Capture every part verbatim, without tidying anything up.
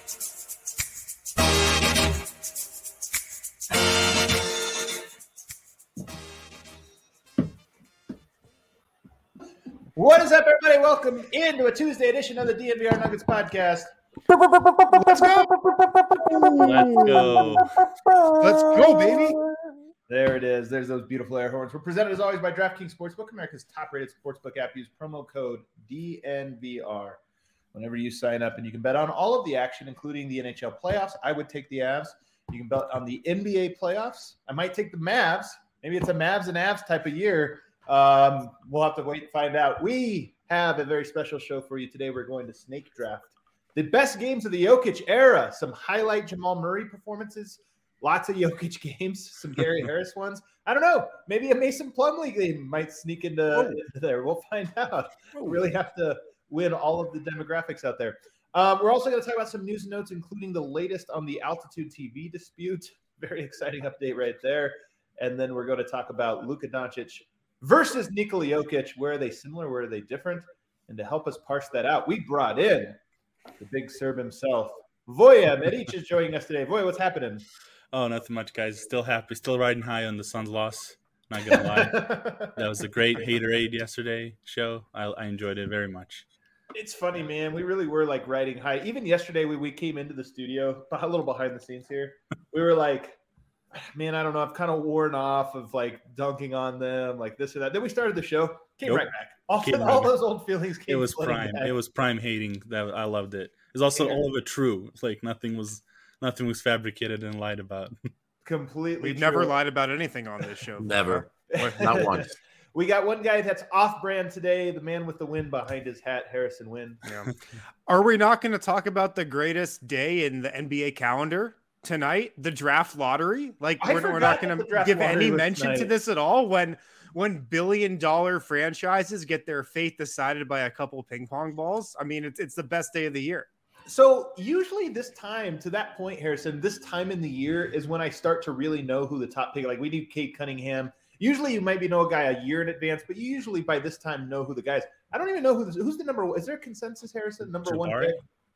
What is up, everybody? Welcome into a Tuesday edition of the D N V R Nuggets podcast. Let's go. Let's go. Let's go, baby. There it is. There's those beautiful air horns. We're presented as always by DraftKings Sportsbook, America's top-rated sportsbook app. Use promo code D N V R whenever you sign up, and you can bet on all of the action, including the N H L playoffs. I would take the Avs. You can bet on the N B A playoffs. I might take the Mavs. Maybe it's a Mavs and Avs type of year. Um, we'll have to wait and find out. We have a very special show for you today. We're going to snake draft the best games of the Jokic era. Some highlight Jamal Murray performances, lots of Jokic games, some Gary Harris ones. I don't know. Maybe a Mason Plumlee game might sneak into, into there. We'll find out. We really have to win all of the demographics out there. Um, we're also going to talk about some news and notes, including the latest on the Altitude T V dispute. Very exciting update right there. And then we're going to talk about Luka Doncic versus Nikola Jokic. Where are they similar? Where are they different? And to help us parse that out, we brought in the big Serb himself. Voya Medic is joining us today. Voya, what's happening? Oh, nothing much, guys. Still happy. Still riding high on the Suns' loss. Not going to lie. That was a great Haterade yesterday show. I, I enjoyed it very much. It's funny, man. We really were, like, riding high. Even yesterday when we came into the studio, a little behind the scenes here, we were like, man, I don't know. I've kind of worn off of like dunking on them, like this or that. Then we started the show, came nope. right back. All, came all right those old feelings came. It was prime. Back. It was prime hating. That I loved it. It was also yeah. all of it true. It's like nothing was nothing was fabricated and lied about. Completely. We've true. never lied about anything on this show. Never. Not once. We got one guy that's off-brand today, the man with the win behind his hat, Harrison Wynn. Yeah. Are we not going to talk about the greatest day in the N B A calendar tonight, the draft lottery? Like we're, we're not going to give any mention tonight. to this at all when when billion dollar franchises get their fate decided by a couple ping pong balls. I mean, it's it's the best day of the year. So usually this time, to that point, Harrison, this time in the year is when I start to really know who the top pick. Like we do Cade Cunningham. Usually you maybe know a guy a year in advance, but you usually by this time know who the guys. I don't even know who this, who's the number one. Is there a consensus, Harrison? Number Jabari? one pick?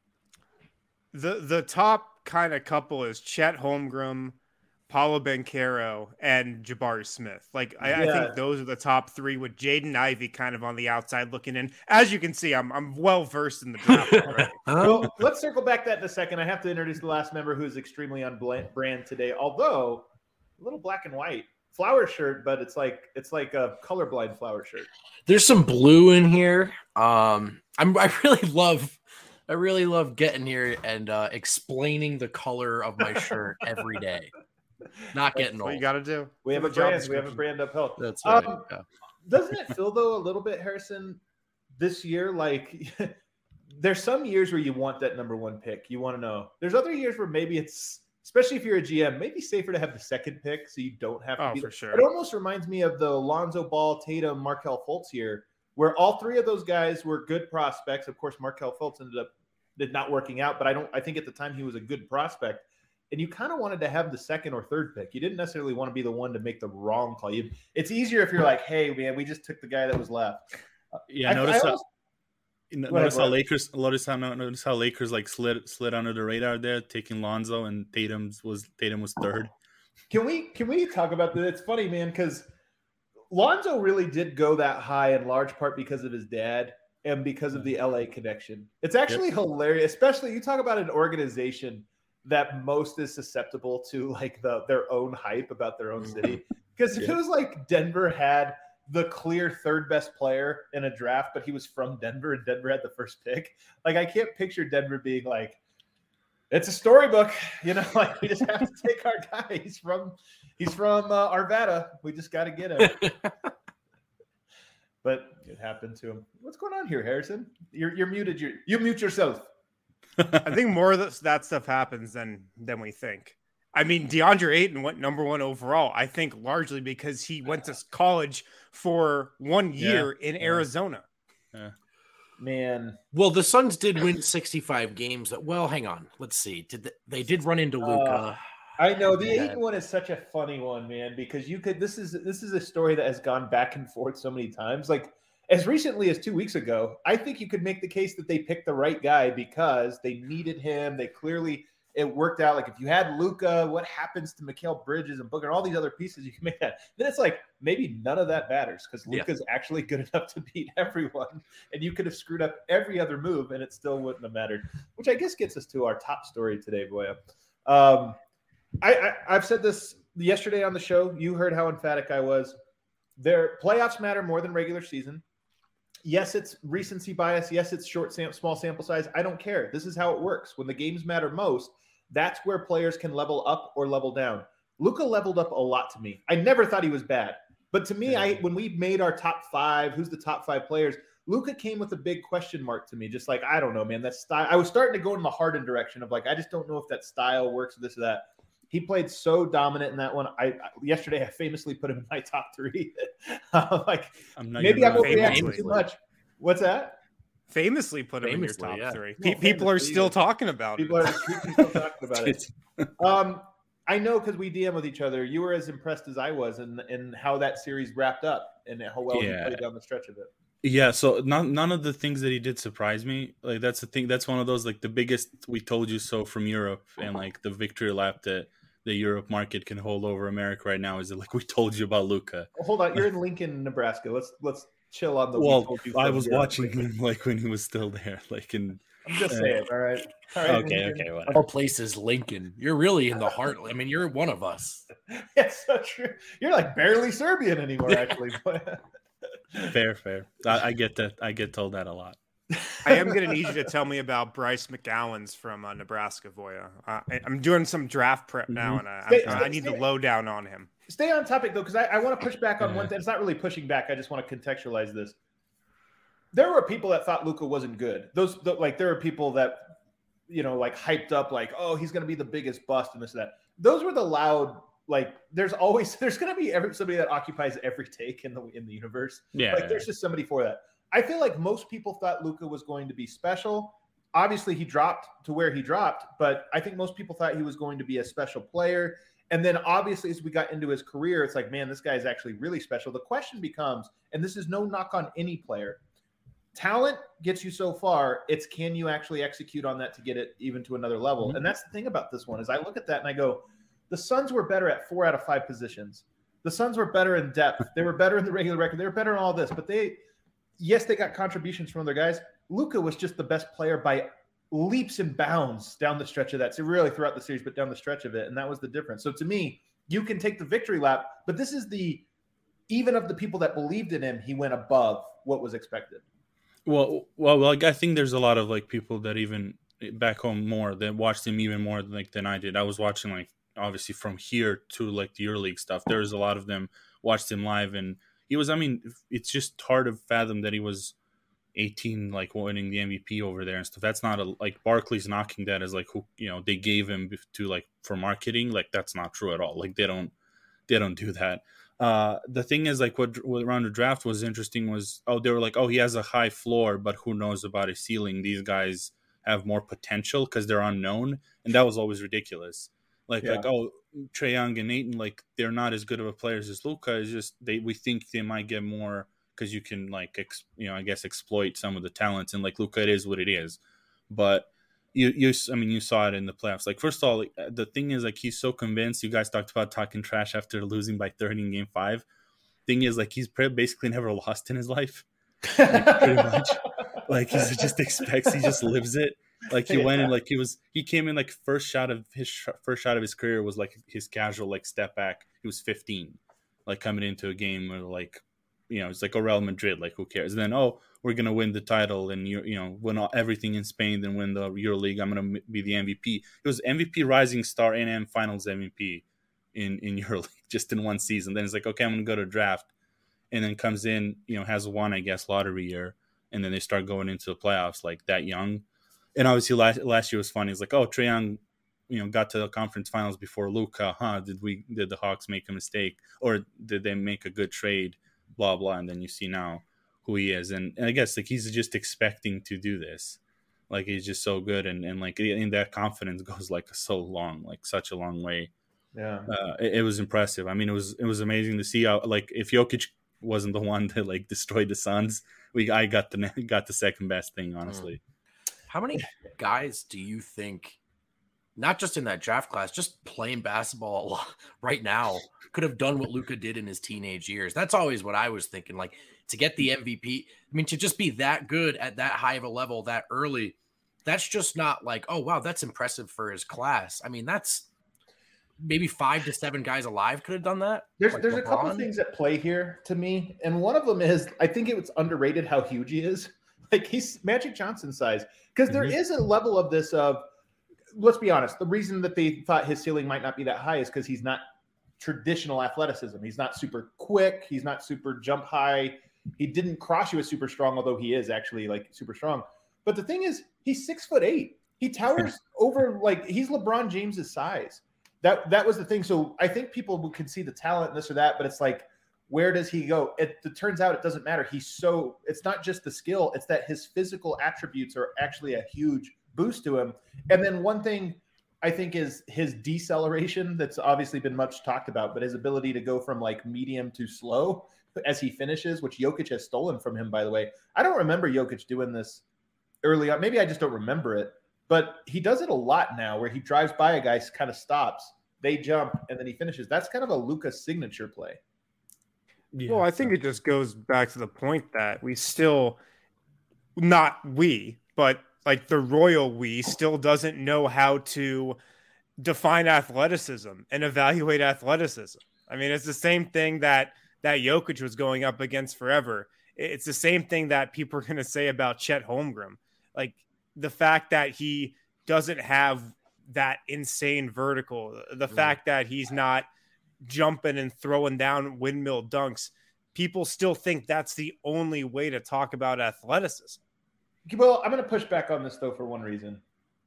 The the top kind of couple is Chet Holmgren, Paolo Banchero, and Jabari Smith. Like I, yeah. I think those are the top three, with Jaden Ivey kind of on the outside looking in. As you can see, I'm I'm well versed in the draft already. Well, let's circle back that in a second. I have to introduce the last member who is extremely on brand today, although a little black and white. Flower shirt, but it's like it's like a colorblind flower shirt. There's some blue in here. Um, I'm I really love I really love getting here and uh, explaining the color of my shirt every day. Not getting That's old. What you got to do. We have a brand. We have a brand uphill. That's right. Um, yeah. Doesn't it feel though a little bit, Harrison, this year like there's some years where you want that number one pick. You want to know. There's other years where maybe it's, especially if you're a G M, maybe safer to have the second pick so you don't have to oh, be for there. sure. It almost reminds me of the Lonzo Ball, Tatum, Markelle Fultz year, where all three of those guys were good prospects. Of course, Markelle Fultz ended up did not working out, but I don't I think at the time he was a good prospect. And you kind of wanted to have the second or third pick. You didn't necessarily want to be the one to make the wrong call. You, it's easier if you're like, hey, man, we just took the guy that was left. Yeah, I, notice I how, almost, notice ahead, how Lakers notice how notice how Lakers like slid slid under the radar there, taking Lonzo, and Tatum's was Tatum was third. Can we can we talk about that? It's funny, man, because Lonzo really did go that high in large part because of his dad and because of the L A connection. It's actually yep. hilarious, especially you talk about an organization that most is susceptible to like the their own hype about their own city. Because if yeah. it was like Denver had the clear third best player in a draft, but he was from Denver and Denver had the first pick, like I can't picture Denver being like, it's a storybook, you know, like we just have to take our guy. He's from he's from uh, Arvada. We just got to get him. But it happened to him. What's going on here, Harrison? You're you're muted. You you mute yourself. I think more of that stuff happens than than we think. I mean, DeAndre Ayton went number one overall, I think largely because he went to college for one year yeah, in yeah. Arizona. Yeah. Man. Well, the Suns did win sixty-five games. Well, hang on. Let's see. Did they, they did run into Luka. Uh, I know the Ayton one is such a funny one, man, because you could this is this is a story that has gone back and forth so many times. Like as recently as two weeks ago, I think you could make the case that they picked the right guy because they needed him. They clearly it worked out. Like if you had Luka, what happens to Mikal Bridges and Booker and all these other pieces? You can make that. Then it's like maybe none of that matters because Luka's yeah. actually good enough to beat everyone, and you could have screwed up every other move and it still wouldn't have mattered. Which I guess gets us to our top story today, Boya. Um, I, I I've said this yesterday on the show. You heard how emphatic I was. Their playoffs matter more than regular season. Yes, it's recency bias. Yes, it's short, sam- small sample size. I don't care. This is how it works. When the games matter most, that's where players can level up or level down. Luka leveled up a lot to me. I never thought he was bad. But to me, I when we made our top five, who's the top five players, Luka came with a big question mark to me. Just like, I don't know, man, that style. I was starting to go in the Harden direction of like, I just don't know if that style works, this or that. He played so dominant in that one. I yesterday I famously put him in my top three. uh, like I'm maybe I'm overreacting too much. What's that? Famously put him famously, in your top yeah. three. No, Pe- people are still talking about people it. Are, people are talking about it. Um, I know because we D M with each other. You were as impressed as I was in in how that series wrapped up and how well yeah. he played down the stretch of it. Yeah, so none none of the things that he did surprise me. Like that's the thing. That's one of those like the biggest we told you so from Europe and like the victory lap that the Europe market can hold over America right now is that like we told you about Luka. Well, hold on, you're in Lincoln, Nebraska. Let's let's chill on the. Well, we told you I was Europe. watching him like when he was still there, like in. I'm just uh, saying. All right. All right. Okay. Okay. Whatever. Our place is Lincoln. You're really in the heart. I mean, you're one of us. It's so true. You're like barely Serbian anymore, actually. Fair, fair. I, I get that. I get told that a lot. I am going to need you to tell me about Bryce McGowan's from uh, Nebraska, Voya. Uh, I, I'm doing some draft prep now, and I, stay, I, I need stay, the lowdown on him. Stay on topic, though, because I, I want to push back on one thing. It's not really pushing back. I just want to contextualize this. There were people that thought Luka wasn't good. Those the, like there are people that, you know, like hyped up like, oh, he's going to be the biggest bust and this and that. Those were the loud. Like there's always there's going to be every, somebody that occupies every take in the in the universe. Yeah, like there's just somebody for that. I feel like most people thought Luka was going to be special. Obviously, he dropped to where he dropped, but I think most people thought he was going to be a special player. And then obviously, as we got into his career, it's like, man, this guy is actually really special. The question becomes, and this is no knock on any player, talent gets you so far. It's can you actually execute on that to get it even to another level? Mm-hmm. And that's the thing about this one is I look at that and I go, the Suns were better at four out of five positions. The Suns were better in depth. They were better in the regular record. They were better in all this, but they – yes, they got contributions from other guys. Luka was just the best player by leaps and bounds down the stretch of that. So really throughout the series, but down the stretch of it. And that was the difference. So to me, you can take the victory lap, but this is the, even of the people that believed in him, he went above what was expected. Well, well, like I think there's a lot of like people that even back home more that watched him even more like than I did. I was watching like obviously from here to like the EuroLeague stuff. There's a lot of them watched him live and he was, I mean, it's just hard to fathom that he was eighteen, like winning the M V P over there and stuff. That's not a, like Barkley's knocking that as like, who, you know, they gave him to like for marketing. Like that's not true at all. Like they don't, they don't do that. Uh, the thing is like what, what around the draft was interesting was, oh, they were like, oh, he has a high floor, but who knows about his ceiling? These guys have more potential because they're unknown. And that was always ridiculous. Like, yeah. like, oh, Trae Young and Ayton, like they're not as good of a players as Luka. It's just they we think they might get more because you can like ex, you know I guess exploit some of the talents and like Luka it is what it is. But you you I mean you saw it in the playoffs. Like first of all, the thing is like he's so convinced. You guys talked about talking trash after losing by thirty in Game Five. Thing is like he's basically never lost in his life. Like, pretty much. Like he just expects. He just lives it. Like he yeah. went in, like he was, he came in like first shot of his sh- first shot of his career was like his casual like step back. He was fifteen, like coming into a game where like, you know, it's like a Real Madrid, like who cares? And then oh, we're gonna win the title and you you know win all, everything in Spain, then win the EuroLeague. I'm gonna be the M V P. It was M V P, Rising Star, N M Finals M V P in in EuroLeague just in one season. Then it's like okay, I'm gonna go to draft, and then comes in, you know, has one I guess lottery year, and then they start going into the playoffs like that young. And obviously last last year was funny. It's like, oh, Trae Young, you know, got to the conference finals before Luka. Huh? Did we? Did the Hawks make a mistake, or did they make a good trade? Blah blah. And then you see now who he is, and, and I guess like he's just expecting to do this. Like he's just so good, and and like in that confidence goes like so long, like such a long way. Yeah, uh, it, it was impressive. I mean, it was it was amazing to see how like if Jokic wasn't the one that like destroyed the Suns. We I got the got the second best thing, honestly. How many guys do you think, not just in that draft class, just playing basketball right now, could have done what Luka did in his teenage years? That's always what I was thinking. Like, to get the M V P, I mean, to just be that good at that high of a level that early, that's just not like, oh, wow, that's impressive for his class. I mean, that's maybe five to seven guys alive could have done that. There's like there's LeBron. a couple of things at play here to me, and one of them is I think it was underrated how huge he is. Like, he's Magic Johnson size, because there Mm-hmm. is a level of this of, let's be honest, the reason that they thought his ceiling might not be that high is because he's not traditional athleticism. He's not super quick. He's not super jump high. He didn't cross you as super strong, although he is actually like super strong. But the thing is, he's six foot eight. He towers over, like, he's LeBron James's size. That that was the thing. So I think people can see the talent and this or that, but it's like, where does he go? It, it turns out it doesn't matter. He's so, it's not just the skill, it's that his physical attributes are actually a huge boost to him. And then one thing I think is his deceleration that's obviously been much talked about, but his ability to go from like medium to slow as he finishes, which Jokic has stolen from him, by the way. I don't remember Jokic doing this early on. Maybe I just don't remember it, but he does it a lot now where he drives by a guy, kind of stops, they jump, and then he finishes. That's kind of a Luka signature play. Yeah. Well, I think it just goes back to the point that we still, not we, but like the royal we still doesn't know how to define athleticism and evaluate athleticism. I mean, it's the same thing that that Jokic was going up against forever. It's the same thing that people are going to say about Chet Holmgren. Like, the fact that he doesn't have that insane vertical, the Mm. fact that he's not jumping and throwing down windmill dunks, people still think that's the only way to talk about athleticism. Well, I'm going to push back on this, though, for one reason.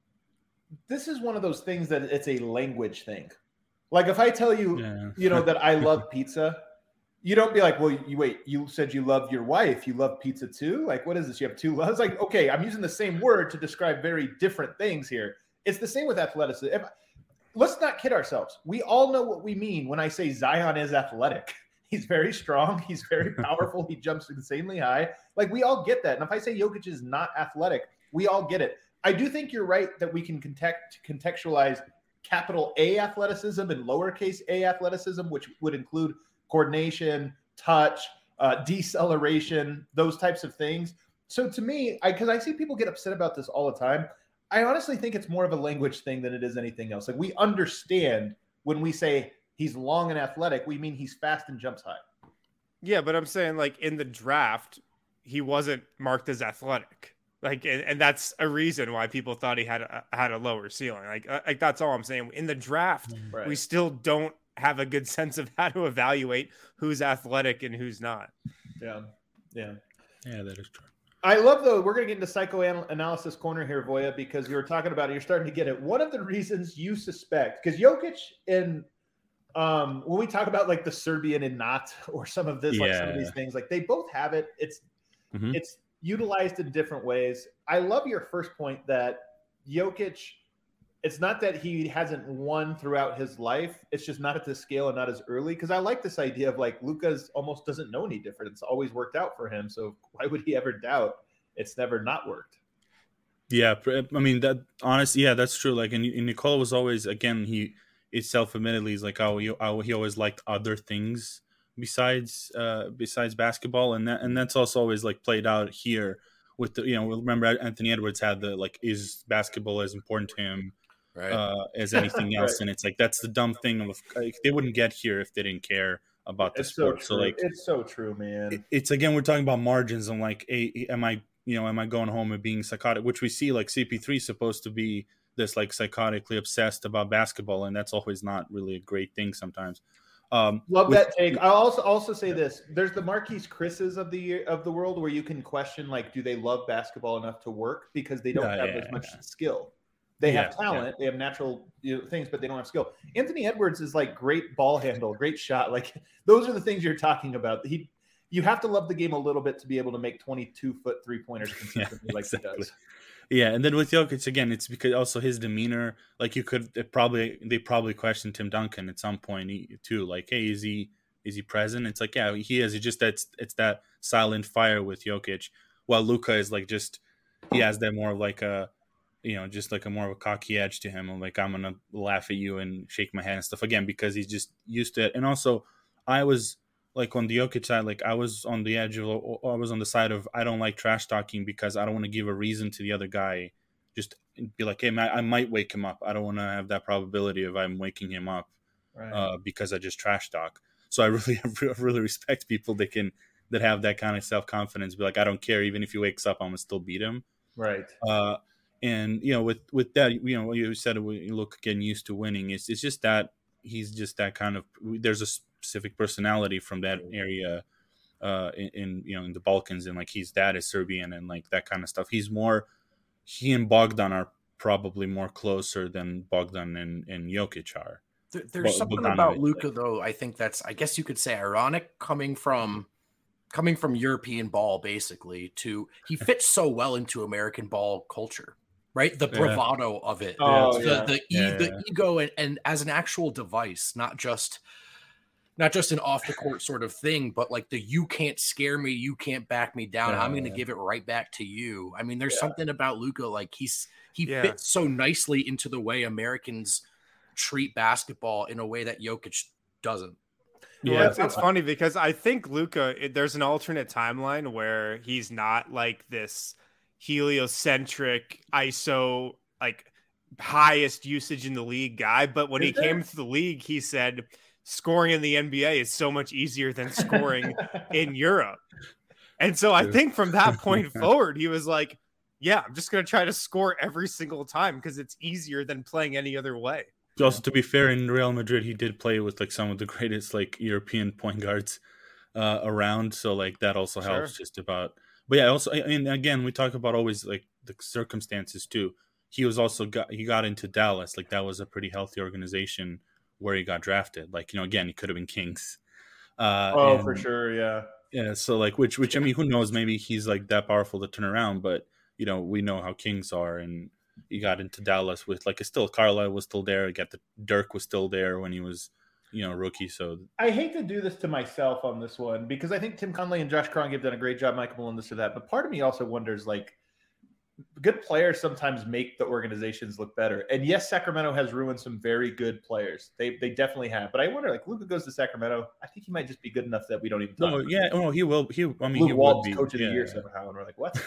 This is one of those things that it's a language thing. Like, if I tell you, Yeah. you know, that I love pizza, you don't be like, well, you wait, you said you love your wife. You love pizza too? Like, what is this? You have two loves? Like, okay, I'm using the same word to describe very different things here. It's the same with athleticism. If, let's not kid ourselves. We all know what we mean when I say Zion is athletic. He's very strong. He's very powerful. He jumps insanely high. Like, we all get that. And if I say Jokic is not athletic, we all get it. I do think you're right that we can context, contextualize capital A athleticism and lowercase a athleticism, which would include coordination, touch, uh, deceleration, those types of things. So to me, I because I see people get upset about this all the time, I honestly think it's more of a language thing than it is anything else. Like, we understand when we say he's long and athletic, we mean he's fast and jumps high. Yeah, but I'm saying, like, in the draft, he wasn't marked as athletic. Like, and, and that's a reason why people thought he had a, had a lower ceiling. Like, uh, like that's all I'm saying. In the draft, Right. we still don't have a good sense of how to evaluate who's athletic and who's not. Yeah, yeah. Yeah, that is true. I love, though, we're going to get into psychoanalysis corner here, Voya, because you were talking about it. You're starting to get it. One of the reasons you suspect, because Jokic in um, when we talk about like the Serbian and not, or some of this, like some of Yeah. these things, like they both have it. It's Mhm. it's utilized in different ways. I love your first point that Jokic, it's not that he hasn't won throughout his life. It's just not at this scale and not as early. Because I like this idea of like Luka's almost doesn't know any different. It's always worked out for him. So why would he ever doubt it's never not worked? Yeah, pr- I mean that. Honestly, yeah, that's true. Like, and, and Nikola was always, again, he it's self-admittedly he's like, oh, he, oh, he always liked other things besides uh besides basketball, and that and that's also always like played out here with the, you know, remember Anthony Edwards had the like, is basketball as important to him Right. uh as anything else? Right. And it's like, that's the dumb thing of like, they wouldn't get here if they didn't care about the It's so sport. true. So like, it's so true, man. it- it's again, we're talking about margins and like, hey, am I, you know, am I going home and being psychotic, which we see like C P three is supposed to be this like psychotically obsessed about basketball, and that's always not really a great thing sometimes. Um, Love with- that take. I'll also also say this: there's the Marquise Chris's of the year, of the world, where you can question like, do they love basketball enough to work because they don't Yeah, have yeah, as much yeah. skill. They have Yeah, talent, they have natural, you know, things, but they don't have skill. Anthony Edwards is like great ball handle, great shot. Like, those are the things you're talking about. He, you have to love the game a little bit to be able to make twenty-two foot three pointers consistently, like exactly. he does. Yeah, and then with Jokic again, it's because also his demeanor. Like, you could it probably they probably questioned Tim Duncan at some point he- too. Like, hey, is he is he present? It's like, yeah, he is. It's just that's it's that silent fire with Jokic, while Luka is like just he has that more of like a you know just like a more of a cocky edge to him. I'm like, I'm gonna laugh at you and shake my hand and stuff again because he's just used to it. And also, I was like on the Jokic side, like I was on the edge of I was on the side of I don't like trash talking because I don't want to give a reason to the other guy. Just be like, hey, man, I might wake him up. I don't want to have that probability of I'm waking him up right. uh, because I just trash talk. So I really, I really respect people that can that have that kind of self confidence. Be like, I don't care, even if he wakes up, I'm gonna still beat him. Right. Uh, and you know, with with that, you know, you said you look getting used to winning. It's it's just that he's just that kind of. There's a specific personality from that area. Uh, in, in you know in the Balkans, and like his dad is Serbian and like that kind of stuff. He's more. He and Bogdan are probably more closer than Bogdan and, and Jokic are. There, there's something Bogdanovic, about Luka, like. though. I think that's, I guess you could say, ironic coming from coming from European ball, basically. To he fits so well into American ball culture, right? The bravado yeah. of it, oh, the yeah. the, yeah, e- the yeah. ego, and, and as an actual device, not just. Not just an off the court sort of thing, but like the you can't scare me, you can't back me down. Yeah, I'm going to yeah. give it right back to you. I mean, there's yeah. something about Luka, like he's he yeah. fits so nicely into the way Americans treat basketball in a way that Jokic doesn't. Yeah, well, it's, it's funny because I think Luka, it, there's an alternate timeline where he's not like this heliocentric I S O like highest usage in the league guy, but when Is he there? came to the league, he said. Scoring in the N B A is so much easier than scoring in Europe. And so I think from that point forward, he was like, yeah, I'm just going to try to score every single time because it's easier than playing any other way. Also, to be fair, in Real Madrid, he did play with like some of the greatest like European point guards uh, around. So like that also helps sure. just about. But yeah, also, and again, we talk about always like the circumstances too. He was also got, he got into Dallas. Like that was a pretty healthy organization where he got drafted. Like, you know, again, he could have been Kings. Uh, oh, and, for sure. Yeah. Yeah. So like, which, which, I mean, who knows, maybe he's like that powerful to turn around, but you know, we know how Kings are. And he got into Dallas with like, it's still Carlisle was still there. Got the Dirk was still there when he was, you know, rookie. So I hate to do this to myself on this one because I think Tim Connelly and Josh Kroenke have done a great job, Michael Malone, this or that. But part of me also wonders, like, good players sometimes make the organizations look better. And yes, Sacramento has ruined some very good players. They they definitely have. But I wonder, like, Luka goes to Sacramento. I think he might just be good enough that we don't even talk no, about yeah, it. oh, he will. He, I mean, Luke he Walton's will be coach of yeah. the year somehow. And we're like, what?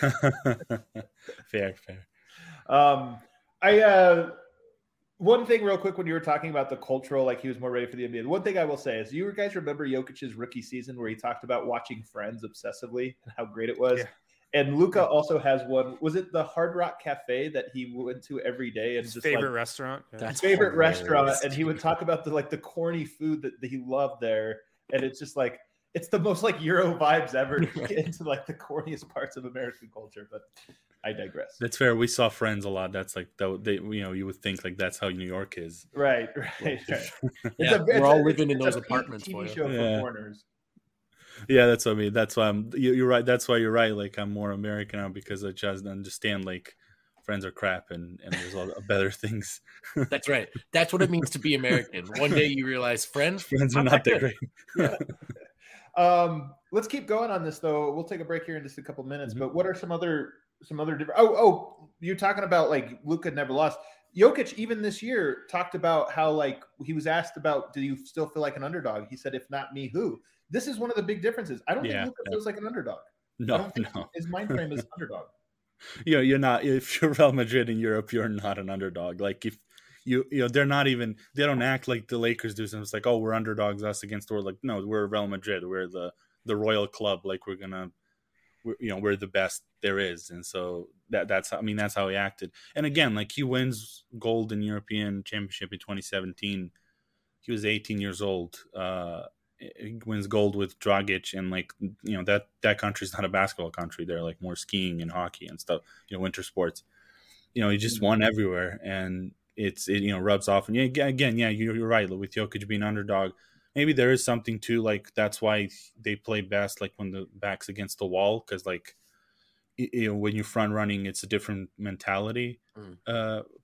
fair, fair. Um, I, uh, one thing real quick when you were talking about the cultural, like he was more ready for the N B A. One thing I will say is you guys remember Jokic's rookie season where he talked about watching Friends obsessively and how great it was? Yeah. And Luka also has one. Was it the Hard Rock Cafe that he went to every day? And his just favorite like, restaurant. Yeah. His favorite hilarious. restaurant, and he would talk about the like the corny food that, that he loved there. And it's just like it's the most like Euro vibes ever to get into like the corniest parts of American culture. But I digress. That's fair. We saw Friends a lot. That's like that. They, you know, you would think like that's how New York is. Right, right. right. It's yeah, a, we're a, all living it's in those a apartments. T V for show you. for yeah. foreigners. Yeah, that's what I mean. That's why I'm. You, you're right. That's why you're right. Like I'm more American now because I just understand like Friends are crap and and there's all better things. That's right. That's what it means to be American. One day you realize Friends, Friends are not that great. Yeah. Um, let's keep going on this though. We'll take a break here in just a couple minutes. Mm-hmm. But what are some other some other different? Oh, oh, you're talking about like Luka never lost. Jokic, even this year, talked about how like he was asked about, do you still feel like an underdog? He said, if not me, who? This is one of the big differences. I don't yeah, think Luka yeah. feels like an underdog. No, I don't think no. His mind frame is underdog. You know, you're not. If you're Real Madrid in Europe, you're not an underdog. Like if you, you know, they're not even. They don't act like the Lakers do. So it's like, oh, we're underdogs, us against the world. Like, no, we're Real Madrid. We're the the royal club. Like we're gonna, we're, you know, we're the best there is. And so that that's. I mean, that's how he acted. And again, like he wins gold in European Championship in twenty seventeen. He was eighteen years old. Uh, he wins gold with Dragic, and like you know that that country's not a basketball country. They're like more skiing and hockey and stuff. You know, winter sports. You know, he just won everywhere, and it's it you know rubs off. And yeah, again, yeah, you're, you're right. With Jokic being underdog, maybe there is something to like that's why they play best like when the back's against the wall because like you know when you're front running, it's a different mentality. Mm. Uh,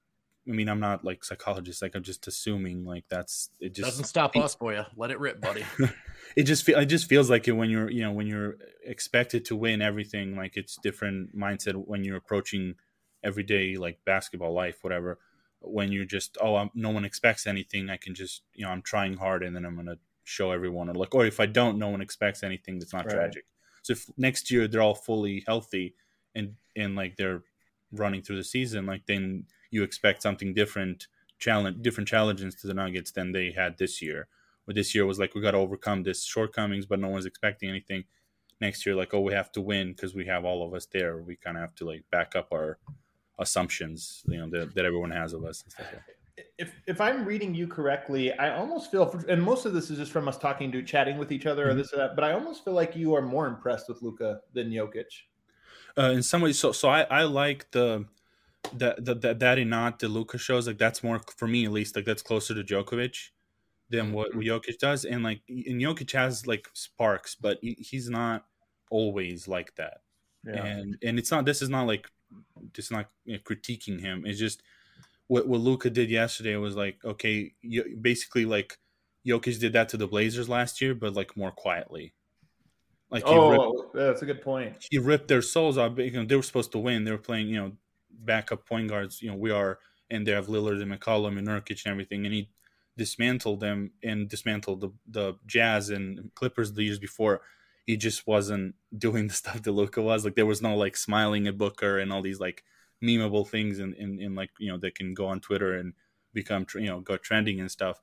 I mean, I'm not like psychologist. Like I'm just assuming like that's it. Just doesn't stop us, boy. Let it rip, buddy. it just fe- it just feels like it when you're you know when you're expected to win everything. Like it's different mindset when you're approaching everyday like basketball life, whatever. When you're just oh I'm, no one expects anything. I can just you know I'm trying hard and then I'm gonna show everyone or like or if I don't, no one expects anything. That's not right. Tragic. So if next year they're all fully healthy and and like they're running through the season, like then you expect something different, challenge, different challenges to the Nuggets than they had this year. Or this year was like, we got to overcome this shortcomings, but no one's expecting anything. Next year, like, oh, we have to win because we have all of us there. We kind of have to like back up our assumptions, you know, that, that everyone has of us and stuff like that. If if I'm reading you correctly, I almost feel, for, and most of this is just from us talking to chatting with each other mm-hmm. or this or that, but I almost feel like you are more impressed with Luka than Jokic. Uh, in some ways, so so I, I like the that that that that and not the Luka shows. Like that's more for me at least. Like that's closer to Djokovic than what Jokic does. And like and Jokic has like sparks, but he, he's not always like that. Yeah. And and it's not. This is not like just not you know, critiquing him. It's just what what Luka did yesterday was like okay, you, basically like Jokic did that to the Blazers last year, but like more quietly. Like he oh, ripped, that's a good point. He ripped their souls out. You know, they were supposed to win. They were playing, you know, backup point guards. You know, we are, and they have Lillard and McCollum and Nurkic and everything. And he dismantled them and dismantled the the Jazz and Clippers the years before. He just wasn't doing the stuff that Luka was. Like there was no like smiling at Booker and all these like memeable things and in, in, in like you know that can go on Twitter and become you know go trending and stuff.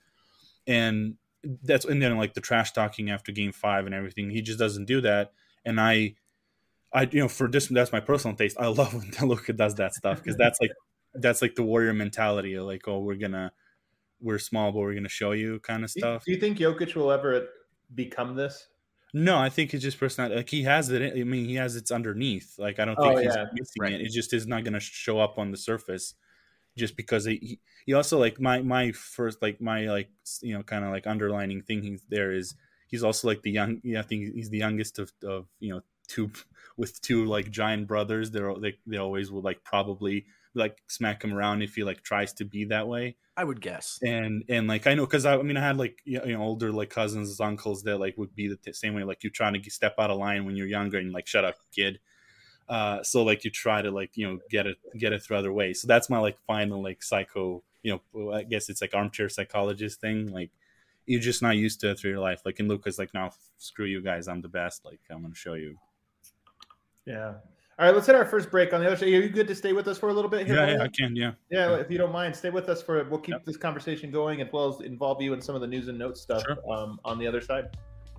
And that's and then like the trash talking after game five and everything. He just doesn't do that. And I, I you know for this that's my personal taste. I love when Luka does that stuff because that's like that's like the warrior mentality of like oh we're gonna we're small but we're gonna show you kind of stuff. Do you think Jokic will ever become this? No, I think it's just personality. Like he has it. I mean, he has it's underneath. Like I don't think oh, he's yeah. missing right. it. It just is not gonna show up on the surface. Just because he, he also like my my first like my like you know kind of like underlining thing he's there is he's also like the young yeah I think he's the youngest of, of you know two with two like giant brothers. They're they they always will like probably like smack him around if he like tries to be that way. I would guess. And and like I know because I, I mean I had like you know older like cousins uncles that like would be the t- same way like you're trying to step out of line when you're younger and like shut up kid. Uh, so like you try to like you know get it get it through other ways. So that's my like final like psycho you know I guess it's like armchair psychologist thing. Like you're just not used to it through your life. Like in Luka's like now screw you guys, I'm the best. Like I'm gonna show you. Yeah. All right, let's hit our first break. On the other side, are you good to stay with us for a little bit here? Yeah, yeah I can. Yeah. Yeah, if you don't mind, stay with us for. We'll keep yep. this conversation going as well as involve you in some of the news and notes stuff sure. um, on the other side.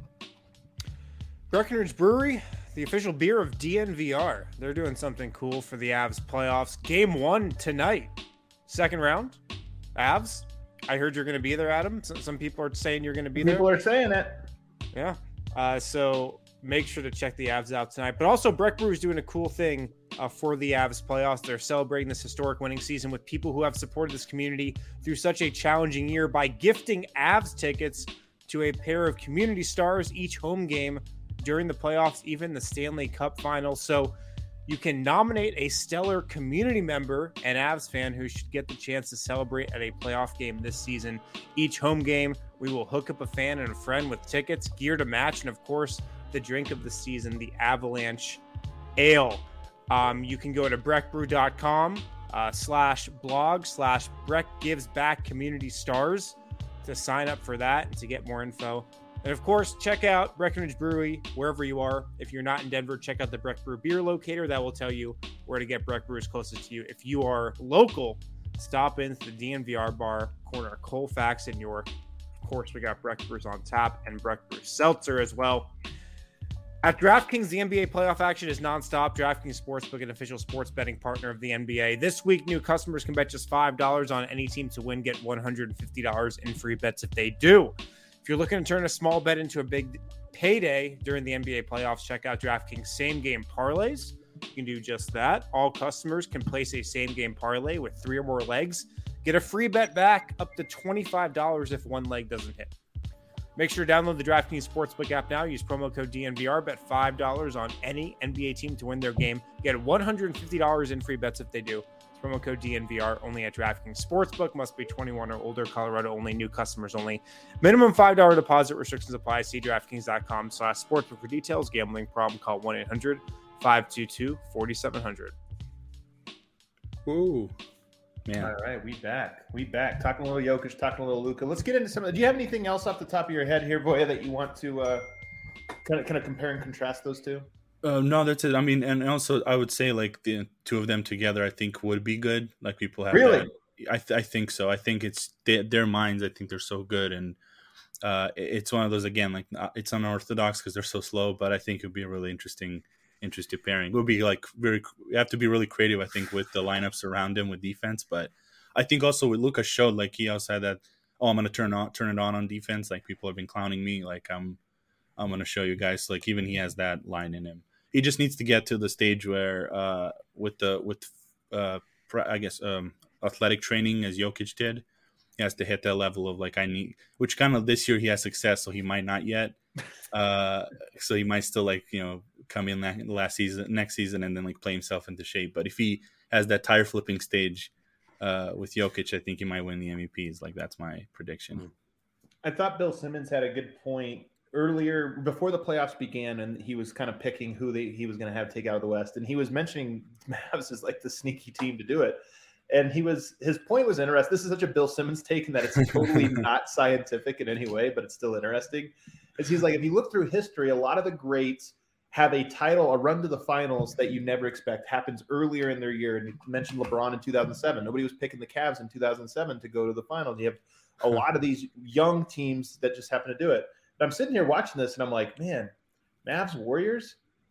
Breckenridge Brewery, the official beer of D N V R. They're doing something cool for the Avs playoffs. Game one tonight. Second round. Avs. I heard you're going to be there, Adam. Some people are saying you're going to be people there. People are saying it. Yeah. Uh, so make sure to check the Avs out tonight. But also, Breck Brew is doing a cool thing uh, for the Avs playoffs. They're celebrating this historic winning season with people who have supported this community through such a challenging year by gifting Avs tickets to a pair of community stars each home game during the playoffs, even the Stanley Cup final. So you can nominate a stellar community member and Avs fan who should get the chance to celebrate at a playoff game this season. Each home game, we will hook up a fan and a friend with tickets, gear to match, and of course, the drink of the season, the Avalanche Ale. Um, you can go to breckbrew.com uh, slash blog slash Breck Gives Back Community Stars to sign up for that and to get more info. And of course, check out Breckenridge Brewery wherever you are. If you're not in Denver, check out the Breck Brew Beer Locator. That will tell you where to get Breck Brews closest to you. If you are local, stop into the D N V R bar, corner Colfax in York. Of course, we got Breck Brews on tap and Breck Brew Seltzer as well. At DraftKings, the N B A playoff action is nonstop. DraftKings Sportsbook, an official sports betting partner of the N B A. This week, new customers can bet just five dollars on any team to win, get one hundred fifty dollars in free bets if they do. If you're looking to turn a small bet into a big payday during the N B A playoffs, check out DraftKings same-game parlays. You can do just that. All customers can place a same-game parlay with three or more legs. Get a free bet back up to twenty-five dollars if one leg doesn't hit. Make sure to download the DraftKings Sportsbook app now. Use promo code D N V R. Bet five dollars on any N B A team to win their game. Get one hundred fifty dollars in free bets if they do. Promo code D N V R only at DraftKings Sportsbook. Must be twenty-one or older. Colorado only. New customers only. Minimum five dollars deposit. Restrictions apply. See DraftKings.com slash sportsbook for details. Gambling problem? Call one eight hundred five two two four seven zero zero. Ooh. Man. All right, we back. We back. Talking a little Jokic, talking a little Luka. Let's get into some of the, do you have anything else off the top of your head here, Voya, that you want to uh, kind of kind of compare and contrast those two? Uh, no, that's it. I mean, and also I would say like the two of them together, I think would be good. Like people have really. That. I th- I think so. I think it's they, their minds. I think they're so good, and uh, it's one of those again. Like it's unorthodox because they're so slow, but I think it would be a really interesting, interesting pairing. It would be like very. You have to be really creative, I think, with the lineups around him with defense. But I think also with Luka showed like he also had that. Oh, I'm gonna turn on turn it on on defense. Like people have been clowning me. Like I'm I'm gonna show you guys. Like even he has that line in him. He just needs to get to the stage where uh, with the with uh, I guess. Um, athletic training as Jokic did, he has to hit that level of like I need, which kind of this year he has success, so he might not yet. Uh, so he might still like you know come in that last season, next season, and then like play himself into shape. But if he has that tire flipping stage uh, with Jokic, I think he might win the M V Ps. Like that's my prediction. I thought Bill Simmons had a good point earlier before the playoffs began, and he was kind of picking who they, he was going to have take out of the West, and he was mentioning Mavs as like the sneaky team to do it. And he was his point was interesting. This is such a Bill Simmons take, and that it's totally not scientific in any way, but it's still interesting. Is he's like, if you look through history, a lot of the greats have a title, a run to the finals that you never expect happens earlier in their year. And you mentioned LeBron in two thousand seven. Nobody was picking the Cavs in two thousand seven to go to the finals. You have a lot of these young teams that just happen to do it. And I'm sitting here watching this, and I'm like, man, Mavs Warriors.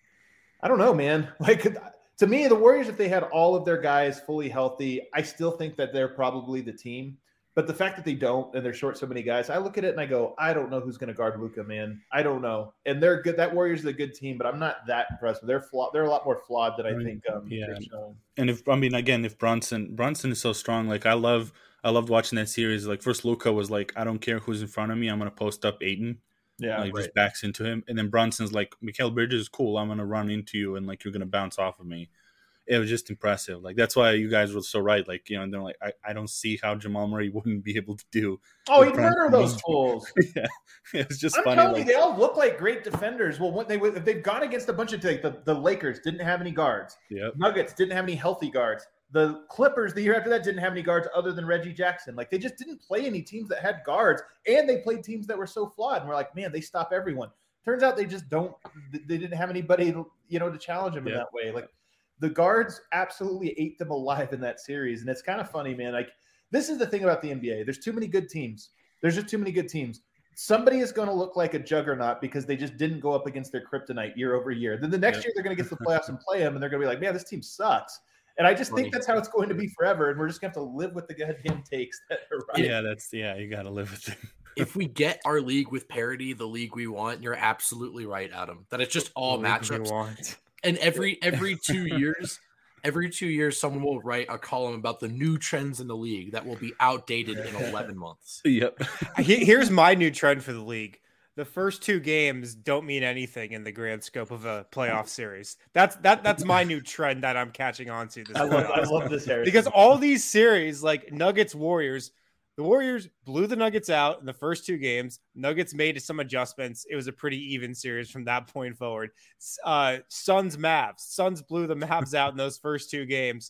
I don't know, man. Like. To me, the Warriors, if they had all of their guys fully healthy, I still think that they're probably the team. But the fact that they don't and they're short so many guys, I look at it and I go, I don't know who's going to guard Luka, man. I don't know. And they're good. That Warriors is a good team, but I'm not that impressed. They're flawed. They're a lot more flawed than I think. Um, yeah. And if I mean, again, if Brunson Brunson is so strong, like I love, I loved watching that series. Like first, Luka was like, I don't care who's in front of me, I'm going to post up Ayton. Yeah, like right. Just backs into him, and then Brunson's like, Mikal Bridges is cool. I'm gonna run into you, and like you're gonna bounce off of me. It was just impressive. Like that's why you guys were so right. Like you know, and they're like, I, I don't see how Jamal Murray wouldn't be able to do. Oh, he'd murder those fools. Yeah, it was just I'm funny. telling like, you, they all look like great defenders. Well, what they if they've gone against a bunch of like the, the Lakers didn't have any guards. Yep. Nuggets didn't have any healthy guards. The Clippers the year after that didn't have any guards other than Reggie Jackson. Like they just didn't play any teams that had guards, and they played teams that were so flawed. And we're like, man, they stop everyone. Turns out they just don't. They didn't have anybody, you know, to challenge them yep. in that way. Like the guards absolutely ate them alive in that series, and it's kind of funny, man. Like this is the thing about the N B A. There's too many good teams. There's just too many good teams. Somebody is going to look like a juggernaut because they just didn't go up against their kryptonite year over year. Then the next yep. year they're going to get to the playoffs and play them, and they're going to be like, man, this team sucks. And I just think that's how it's going to be forever, and we're just going to have to live with the goddamn takes that are right. Yeah, that's yeah, you got to live with it. If we get our league with parity, the league we want, you're absolutely right, Adam. That it's just all the matchups. And every every two years, every two years, someone will write a column about the new trends in the league that will be outdated in eleven months. Yep. Here's my new trend for the league. The first two games don't mean anything in the grand scope of a playoff series. That's that. That's my new trend that I'm catching on to. This I love, I love this, Harrison. Because all these series, like Nuggets, Warriors, the Warriors blew the Nuggets out in the first two games. Nuggets made some adjustments. It was a pretty even series from that point forward. Uh, Suns, Mavs. Suns blew the Mavs out in those first two games.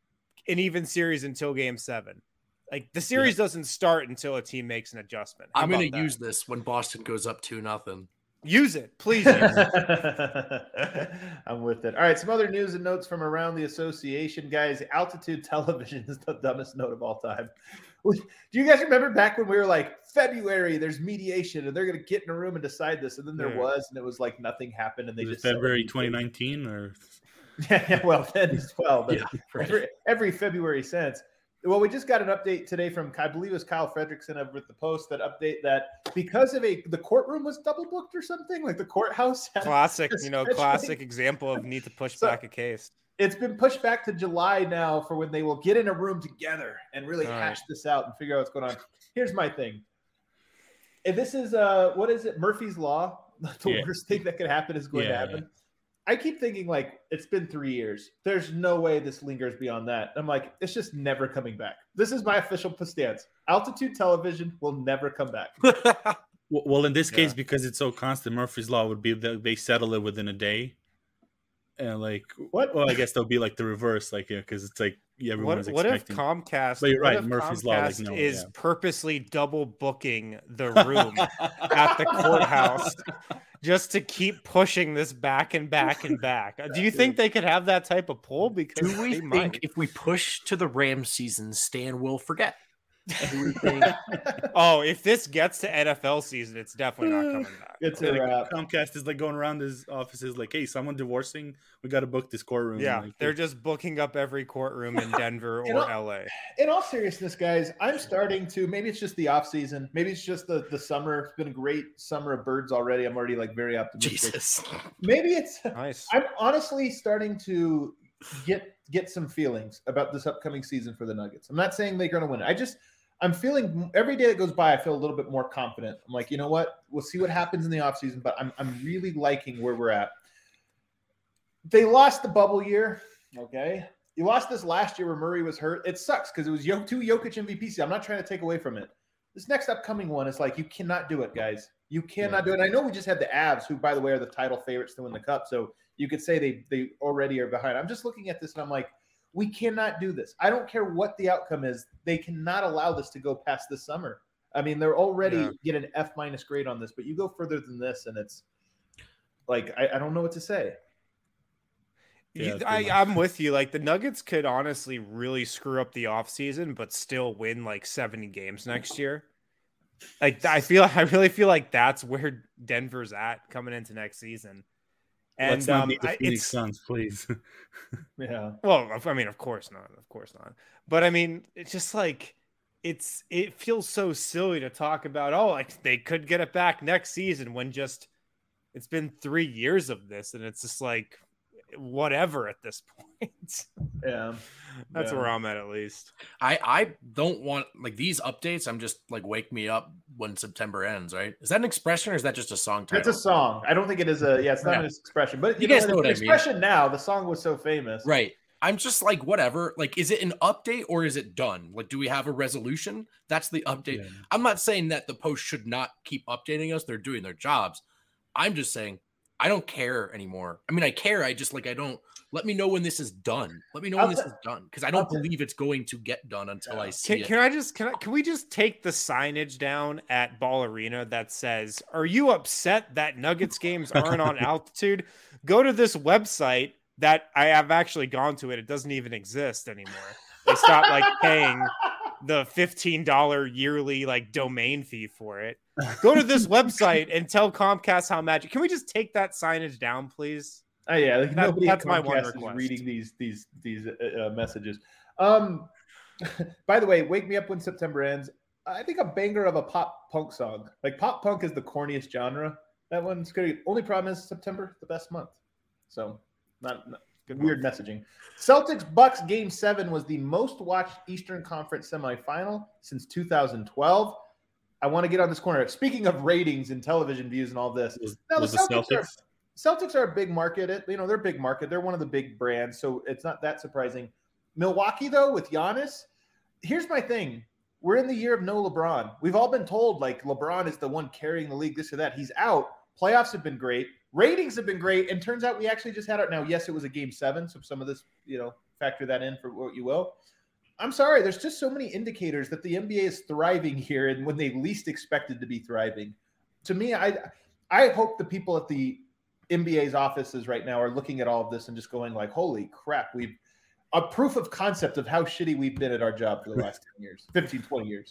An even series until game seven. Like the series yeah. doesn't start until a team makes an adjustment. How I'm going to use this when Boston goes up two nothing. Use it, please. Use it. I'm with it. All right, some other news and notes from around the association, guys. Altitude Television is the dumbest note of all time. Do you guys remember back when we were like February? There's mediation, and they're going to get in a room and decide this, and then there yeah. was, and it was like nothing happened, and they was just February twenty nineteen or yeah, well, then as well, but yeah, right. every, every February since. Well, we just got an update today from, I believe it was Kyle Fredrickson over at the Post, that update that because of a, the courtroom was double booked or something, like the courthouse. Classic, you know, classic example of need to push so, back a case. It's been pushed back to July now for when they will get in a room together and really All hash right. this out and figure out what's going on. Here's my thing. If this is, uh, what is it, Murphy's Law? The yeah. worst thing that could happen is going yeah, to happen. I keep thinking like it's been three years. There's no way this lingers beyond that. I'm like, it's just never coming back. This is my official stance. Altitude television will never come back. Well, in this case, yeah. because it's so constant, Murphy's Law would be that they settle it within a day. And like, what? Well, I guess they'll be like the reverse, like, yeah, because it's like yeah, everyone's what, what expecting. What if Comcast? But you're right, Comcast Murphy's Law like, no, is yeah. purposely double booking the room at the courthouse just to keep pushing this back and back and back? Do you think they could have that type of pull? Because do we think might. if we push to the Rams season, Stan will forget? Oh, if this gets to N F L season, it's definitely not coming back. It's yeah, a like, Comcast is like going around his offices like, hey, someone divorcing, we got to book this courtroom. Yeah, like, they're just booking up every courtroom in Denver or all, L A. In all seriousness, guys, I'm starting to, maybe it's just the off season, maybe it's just the, the summer. It's been a great summer of birds already. I'm already like very optimistic. Jesus. Maybe it's nice. I'm honestly starting to get get some feelings about this upcoming season for the Nuggets. I'm not saying they're going to win. I just I'm feeling every day that goes by, I feel a little bit more confident. I'm like, you know what? We'll see what happens in the offseason, but I'm I'm really liking where we're at. They lost the bubble year, okay? You lost this last year where Murray was hurt. It sucks because it was two Jokic M V Ps. I'm not trying to take away from it. This next upcoming one is like, you cannot do it, guys. You cannot do it. And I know we just had the Avs, who, by the way, are the title favorites to win the Cup, so you could say they they already are behind. I'm just looking at this and I'm like, we cannot do this. I don't care what the outcome is. They cannot allow this to go past this summer. I mean, they're already yeah. get an F minus grade on this, but you go further than this, and it's like I, I don't know what to say. Yeah, I, I'm with you. Like the Nuggets could honestly really screw up the offseason, but still win like seventy games next year. Like I feel, I really feel like that's where Denver's at coming into next season. And Let's not um, meet the I, Phoenix it's, Suns, please. Yeah. Well, I mean, of course not. Of course not. But I mean, it's just like it's it feels so silly to talk about. Oh, like they could get it back next season when just it's been three years of this, and it's just like whatever at this point. Yeah. That's yeah. where I'm at, at least. I, I don't want like these updates. I'm just like, wake me up when September ends, right? Is that an expression or is that just a song title? It's a song. I don't think it is a, yeah, it's not yeah. an expression, but you, you know, guys know what I mean. Expression now, the song was so famous. Right. I'm just like, whatever. Like, is it an update or is it done? Like, do we have a resolution? That's the update. Yeah. I'm not saying that the Post should not keep updating us. They're doing their jobs. I'm just saying, I don't care anymore. I mean, I care. I just like, I don't. Let me know when this is done. Let me know when I'll this t- is done because I don't believe it's going to get done until yeah. I see can, it. Can I just can I can we just take the signage down at Ball Arena that says, "Are you upset that Nuggets games aren't on altitude? Go to this website that I have actually gone to it. It doesn't even exist anymore. They stopped like paying the fifteen dollars yearly like domain fee for it. Go to this website and tell Comcast how magic. Can we just take that signage down, please?" Oh yeah, like that, nobody that's at my one Comcast request. is reading these these these uh, messages. Um, by the way, "Wake Me Up When September Ends." I think a banger of a pop punk song. Like pop punk is the corniest genre. That one's good. Only problem is September, the best month. So not, not good weird month. Messaging. Celtics Bucks Game Seven was the most watched Eastern Conference semifinal since two thousand twelve. I want to get on this corner. Speaking of ratings and television views and all this, was, now was the Celtics, the Celtics? Are, Celtics are a big market. It, you know, they're a big market. They're one of the big brands, so it's not that surprising. Milwaukee, though, with Giannis, here's my thing. We're in the year of no LeBron. We've all been told, like, LeBron is the one carrying the league, this or that. He's out. Playoffs have been great. Ratings have been great. And turns out we actually just had it. Now, yes, it was a game seven, so some of this, you know, factor that in for what you will. I'm sorry. There's just so many indicators that the N B A is thriving here and when they least expected to be thriving. To me, I I hope the people at the N B A's offices right now are looking at all of this and just going like, holy crap, we've a proof of concept of how shitty we've been at our job for the last ten years, fifteen, twenty years.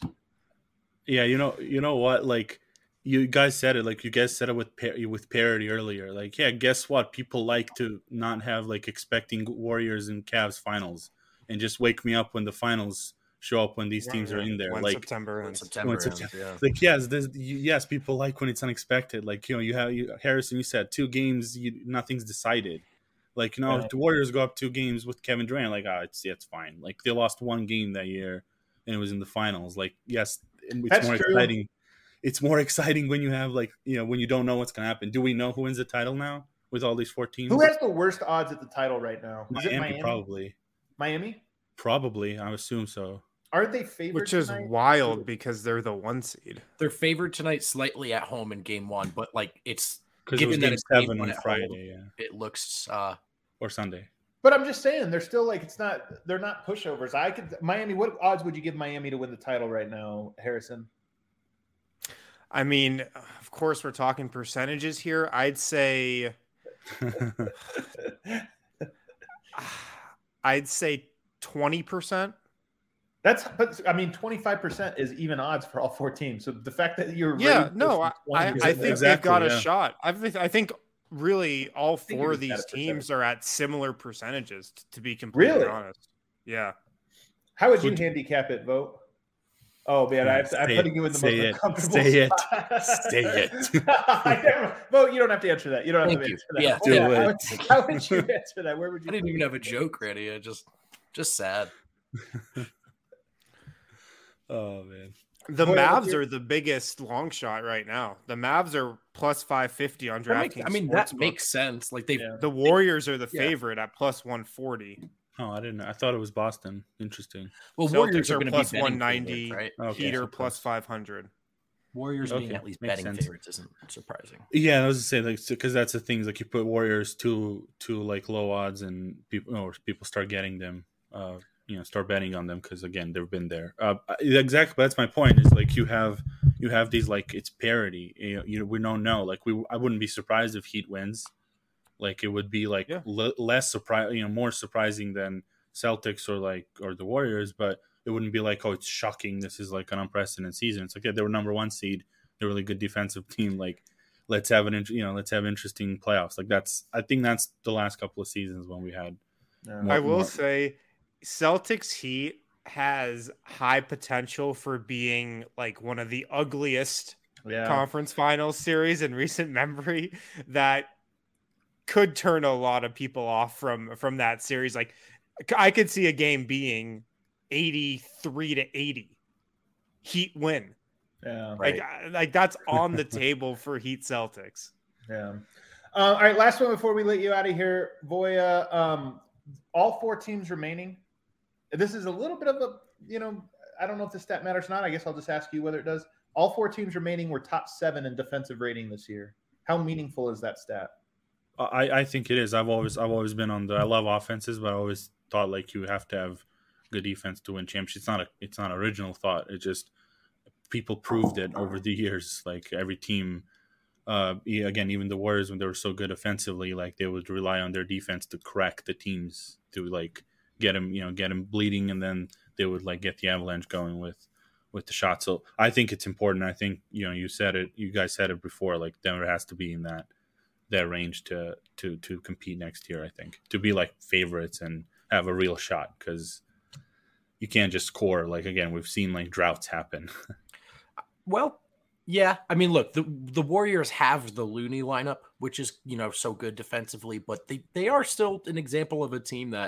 Yeah, you know, you know what? Like you guys said it, like you guys said it with with parody earlier. Like, yeah, guess what? People like to not have like expecting Warriors and Cavs finals and just wake me up when the finals show up when these teams right, are in there. When like September when ends. September, when ends, September yeah. Like yes, this, yes, people like when it's unexpected. Like, you know, you have you, Harrison. You said two games, you, nothing's decided. Like, you know, right. The Warriors go up two games with Kevin Durant. Like, ah, oh, it's yeah, it's fine. Like they lost one game that year, and it was in the finals. Like, yes, it's That's more true. exciting. It's more exciting when you have like, you know, when you don't know what's gonna happen. Do we know who wins the title now? with all these four teams. Who has the worst odds at the title right now? Is Miami, it Miami? Probably. Miami? Probably. I assume so. Aren't they favored Which is tonight? wild because they're the one seed. They're favored tonight slightly at home in game one, but like it's because it was given game that it's seven game on Friday, home, yeah, it looks uh or Sunday. But I'm just saying, they're still like it's not. They're not pushovers. I could Miami. What odds would you give Miami to win the title right now, Harrison? I mean, of course, we're talking percentages here. I'd say, I'd say twenty percent. That's, but I mean, twenty-five percent is even odds for all four teams. So the fact that you're yeah, no, I, I, I think exactly, they've got yeah. a shot. I think, I think really all four of these at teams are at similar percentages. To be completely really honest, yeah. How would you Would, handicap it, Vogt? Oh man, I have to, I'm say putting it, you in the say most it, uncomfortable say spot. it, say it. I never, Vogt, you don't have to answer that. You don't have Thank to you. answer that. Yeah, do how, it. Would, how would you answer that? Where would you? I didn't even have a joke ready. I just just sad. Oh man. The Boy, Mavs you're- are the biggest long shot right now. The Mavs are plus five fifty on That makes- DraftKings. I mean, that Sportsbook. makes sense. Like they, Yeah. The Warriors are the Yeah. favorite at plus one forty. Oh, I didn't know. I thought it was Boston. Interesting. well, Celtics Warriors are are going to plus be betting one ninety. favorites, right? Okay, Heater so plus five hundred. Warriors being Okay, at least makes betting sense. favorites isn't surprising. Yeah, I was to say like because that's the things like you put Warriors to to like low odds and people or people start getting them. Uh, you know, start betting on them because again they've been there. Uh, exactly, that's my point. Is like you have you have these like it's parity. You know, you know we don't know. Like we, I wouldn't be surprised if Heat wins. Like it would be like Yeah. l- less surprise, you know, more surprising than Celtics or like or the Warriors, but it wouldn't be like, oh, it's shocking. This is like an unprecedented season. It's like yeah, they were number one seed. They're a really good defensive team. Like let's have an you know let's have interesting playoffs. Like that's I think that's the last couple of seasons when we had. Yeah. more- I will more- say Celtics Heat has high potential for being like one of the ugliest Yeah. conference finals series in recent memory that could turn a lot of people off from from that series. Like I could see a game being eighty-three to eighty. Heat win. Yeah. Right. Like, I- like that's on the table for Heat Celtics. Yeah. Uh, all right. Last one before we let you out of here, Voya. Um, all four teams remaining. This is a little bit of a, you know, I don't know if the stat matters or not. I guess I'll just ask you whether it does. All four teams remaining were top seven in defensive rating this year. How meaningful is that stat? I, I think it is. I've always I've always been on the I love offenses, but I always thought like you have to have good defense to win championships. It's not a it's not an original thought. It just people proved it over the years. Like every team, uh, again, even the Warriors when they were so good offensively, like they would rely on their defense to crack the teams to like get them, you know, get them bleeding, and then they would like get the avalanche going with with the shot. So I think it's important. I think you know you said it, you guys said it before. Like Denver has to be in that that range to to to compete next year. I think to be like favorites and have a real shot because you can't just score. Like again, we've seen like droughts happen. Well, yeah. I mean, look, the the Warriors have the Looney lineup, which is, you know, so good defensively, but they, they are still an example of a team that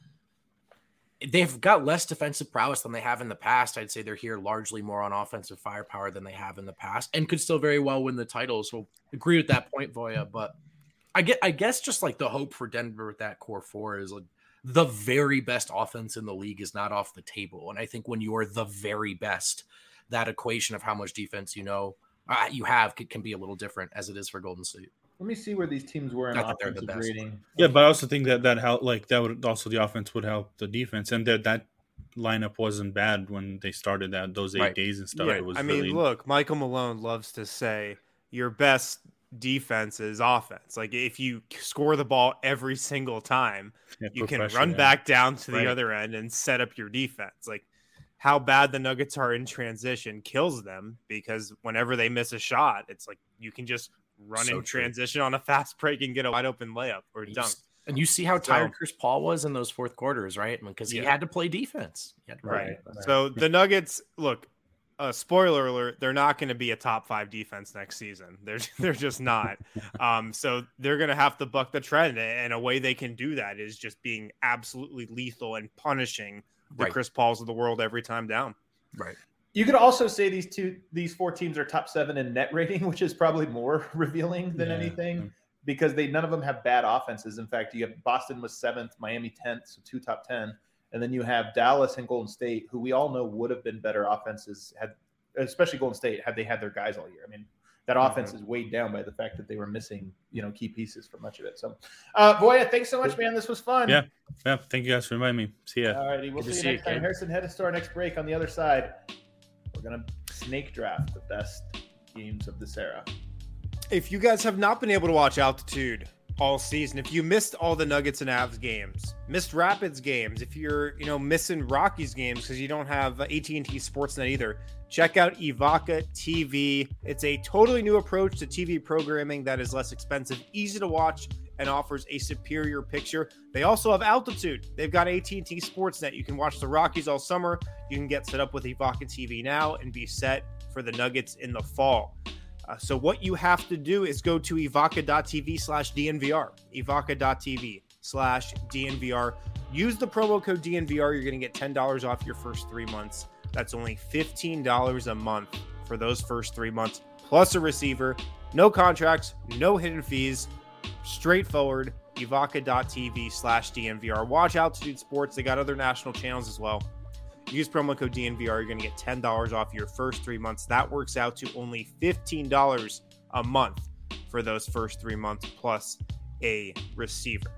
they've got less defensive prowess than they have in the past. I'd say they're here largely more on offensive firepower than they have in the past and could still very well win the title. So agree with that point, Voya. But I get, I guess just like the hope for Denver with that core four is like the very best offense in the league is not off the table. And I think when you're the very best, that equation of how much defense you know uh, you have can, can be a little different as it is for Golden State. Let me see where these teams were in Not that they're the offensive best. rating. Yeah, but I also think that that help like that would also the offense would help the defense, and that that lineup wasn't bad when they started that those eight Right. days and stuff. Yeah, It was I mean, really, look, Michael Malone loves to say your best defense is offense. Like if you score the ball every single time, yeah, you put can pressure, run yeah. back down to the Right. other end and set up your defense. Like how bad the Nuggets are in transition kills them because whenever they miss a shot, it's like you can just run So in true. transition on a fast break and get a wide open layup or You dunk. s- And you see how tired So- Chris Paul was in those fourth quarters, right? Because he Yeah. had to play defense. He had to play Right. defense. So the Nuggets, look, uh, spoiler alert, they're not going to be a top five defense next season. They're they're just not. um, so they're going to have to buck the trend, and a way they can do that is just being absolutely lethal and punishing the Right. Chris Pauls of the world every time down. Right. You could also say these two, these four teams are top seven in net rating, which is probably more revealing than Yeah. anything. because they none of them have bad offenses. In fact, you have Boston was seventh, Miami tenth, so two top ten, and then you have Dallas and Golden State, who we all know would have been better offenses had, especially Golden State, had they had their guys all year. I mean, that offense mm-hmm. is weighed down by the fact that they were missing, you know, key pieces for much of it. So, uh, Voya, thanks so much, man. This was fun. Yeah, yeah. Thank you guys for inviting me. See ya. All righty, we'll see you see next you, time. Kid. Harrison, head us to our next break. On the other side, we're gonna snake draft the best games of this era. If you guys have not been able to watch Altitude all season, if you missed all the Nuggets and Avs games, missed Rapids games, if you're, you know, missing Rockies games because you don't have A T and T Sportsnet either, check out Evoca T V. It's a totally new approach to T V programming that is less expensive, easy to watch, and offers a superior picture. They also have Altitude. They've got A T and T Sportsnet. You can watch the Rockies all summer. You can get set up with Evoca T V now and be set for the Nuggets in the fall. Uh, so what you have to do is go to evoca.tv slash DNVR, evoca.tv slash DNVR. Use the promo code D N V R. You're going to get ten dollars off your first three months. That's only fifteen dollars a month for those first three months, plus a receiver. No contracts, no hidden fees, straightforward, evoca.tv slash DNVR. Watch Altitude Sports. They got other national channels as well. Use promo code D N V R. You're going to get ten dollars off your first three months. That works out to only fifteen dollars a month for those first three months, plus a receiver.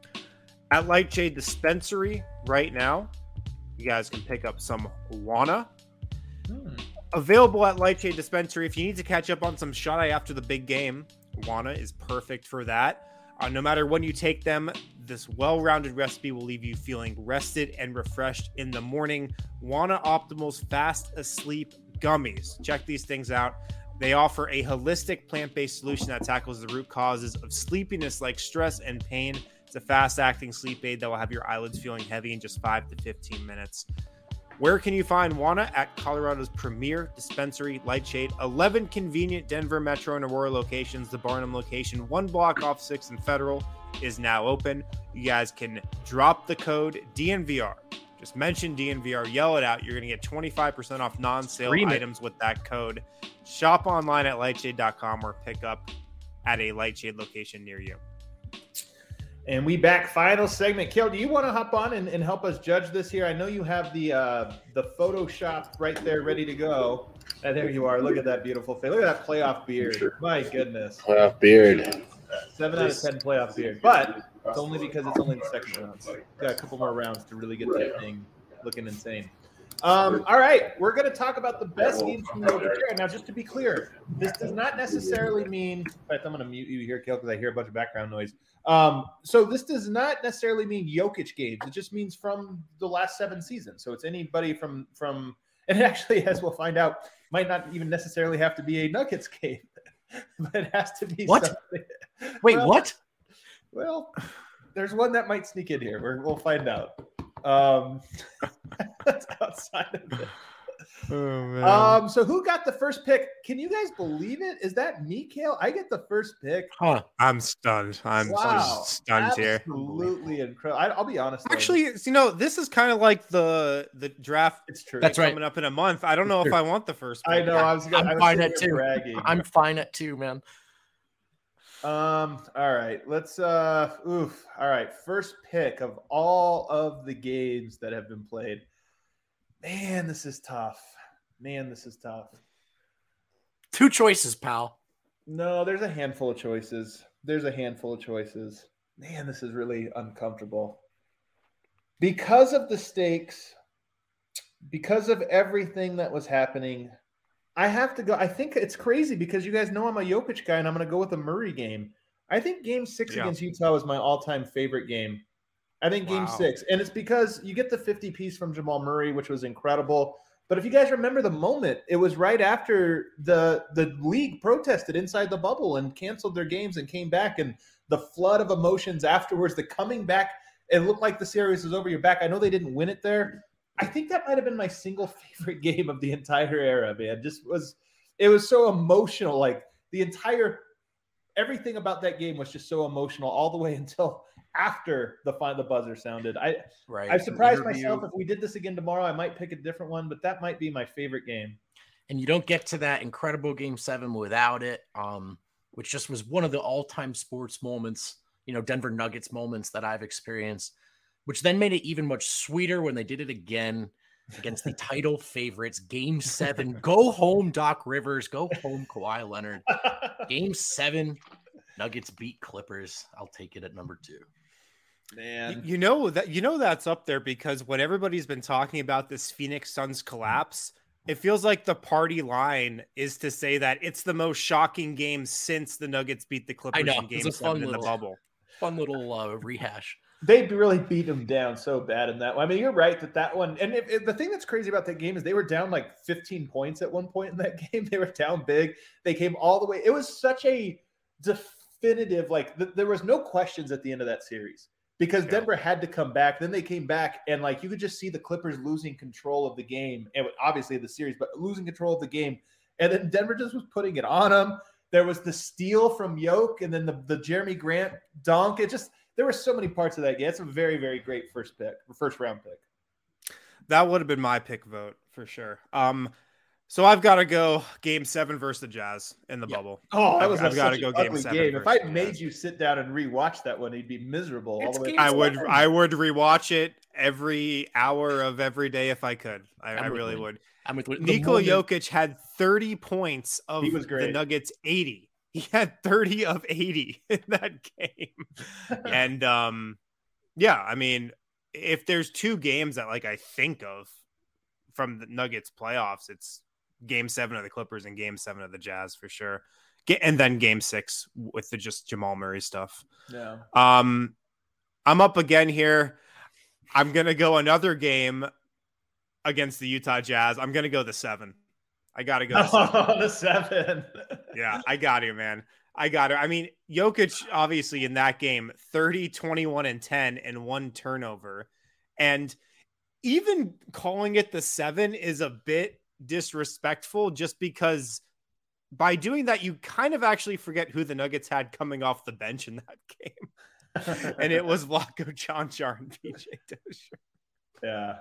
At Lightshade Dispensary right now, you guys can pick up some Wana. Hmm. Available at Lightshade Dispensary. If you need to catch up on some shut-eye after the big game, Wana is perfect for that. Uh, no matter when you take them, this well-rounded recipe will leave you feeling rested and refreshed in the morning. Wana Optimal's Fast Asleep Gummies. Check these things out. They offer a holistic plant-based solution that tackles the root causes of sleepiness like stress and pain. It's a fast-acting sleep aid that will have your eyelids feeling heavy in just five to fifteen minutes. Where can you find Wana? At Colorado's premier dispensary, Lightshade. eleven convenient Denver Metro and Aurora locations. The Barnum location, one block off sixth and Federal, is now open. You guys can drop the code D N V R. Just mention D N V R, yell it out. You're going to get twenty-five percent off non-sale Scream items it. with that code. Shop online at lightshade dot com or pick up at a Lightshade location near you. And we back, final segment. Kale, do you want to hop on and, and help us judge this here? I know you have the uh, the Photoshop right there ready to go. And there you are. Look at that beautiful face. Look at that playoff beard. My goodness. Playoff beard. Seven out of ten playoff beard. But it's only because it's only the second round. So got a couple more rounds to really get that thing looking insane. Um, all right, we're going to talk about the best games from the over here. Now, just to be clear, this does not necessarily mean – in fact, I'm going to mute you here, Kale, because I hear a bunch of background noise. Um, so this does not necessarily mean Jokic games. It just means from the last seven seasons. So it's anybody from – from, and it actually, as we'll find out, might not even necessarily have to be a Nuggets game. But it has to be what? Something. Wait, well, what? Well, there's one that might sneak in here. We're, we'll find out. Um, that's outside of it. Oh, man. Um, so who got the first pick? Can you guys believe it? Is that me, Kale? I get the first pick. Huh. I'm stunned. I'm wow. stunned Absolutely here. Absolutely incredible. I, I'll be honest. Actually, though. you know, this is kind of like the the draft. It's true. That's coming right. up in a month. I don't know if I want the first pick. I know. I was. Gonna, I'm I was fine at two. Bragging. I'm fine at two, man. Um, all right, let's uh oof. All right, first pick of all of the games that have been played. Man, this is tough. Man, this is tough. Two choices, pal. No, there's a handful of choices. There's a handful of choices. Man, this is really uncomfortable. Because of the stakes, because of everything that was happening, I have to go. I think it's crazy because you guys know I'm a Jokic guy, and I'm going to go with the Murray game. I think game six yeah. against Utah was my all-time favorite game. I think game wow. six. And it's because you get the fifty piece from Jamal Murray, which was incredible. But if you guys remember the moment, it was right after the, the league protested inside the bubble and canceled their games and came back. And the flood of emotions afterwards, the coming back, it looked like the series was over your back. I know they didn't win it there. I think that might have been my single favorite game of the entire era, man. Just was, it was so emotional. Like the entire, everything about that game was just so emotional all the way until after the final buzzer sounded. I, right. I surprised myself. If we did this again tomorrow, I might pick a different one, but that might be my favorite game. And you don't get to that incredible game seven without it. Um, which just was one of the all-time sports moments, you know, Denver Nuggets moments that I've experienced, which then made it even much sweeter when they did it again against the title favorites. Game seven, go home, Doc Rivers, go home, Kawhi Leonard. Game seven, Nuggets beat Clippers. I'll take it at number two. Man, you know that you know that's up there because when everybody's been talking about this Phoenix Suns collapse, it feels like the party line is to say that it's the most shocking game since the Nuggets beat the Clippers I know. in Game Seven in the bubble. Fun little uh, rehash. They really beat them down so bad in that one. I mean, you're right that that one. And if, if the thing that's crazy about that game is they were down like fifteen points at one point in that game. They were down big. They came all the way. It was such a definitive, like th- there was no questions at the end of that series. Because yeah. Denver had to come back. Then they came back, and like you could just see the Clippers losing control of the game, and obviously the series, but losing control of the game. And then Denver just was putting it on them. There was the steal from Yoke, and then the, the Jeremy Grant dunk. It just there were so many parts of that game. It's a very, very great first pick, first round pick. That would have been my pick vote for sure. Um, so I've got to go Game Seven versus the Jazz in the yeah. bubble. Oh, that was I've got to go Game Seven. Game. If I made you sit down and rewatch that one, you'd be miserable. All the way I would. Seven. I would rewatch it every hour of every day if I could. I, I really would. I'm with Nikola Jokic had thirty points of he was great. The Nuggets eighty. He had thirty of eighty in that game, and um, yeah, I mean, if there's two games that like I think of from the Nuggets playoffs, it's Game seven of the Clippers and Game seven of the Jazz for sure. And then Game six with the just Jamal Murray stuff. Yeah. Um, I'm up again here. I'm going to go another game against the Utah Jazz. I'm going to go the seven. I got to go. The seven. Oh, the seven. Yeah, I got it, man. I got it. I mean, Jokic, obviously in that game, thirty, twenty-one, and ten and one turnover. And even calling it the seven is a bit disrespectful just because by doing that you kind of actually forget who the Nuggets had coming off the bench in that game. And it was Vlatko Čančar and P J Dozier. Yeah.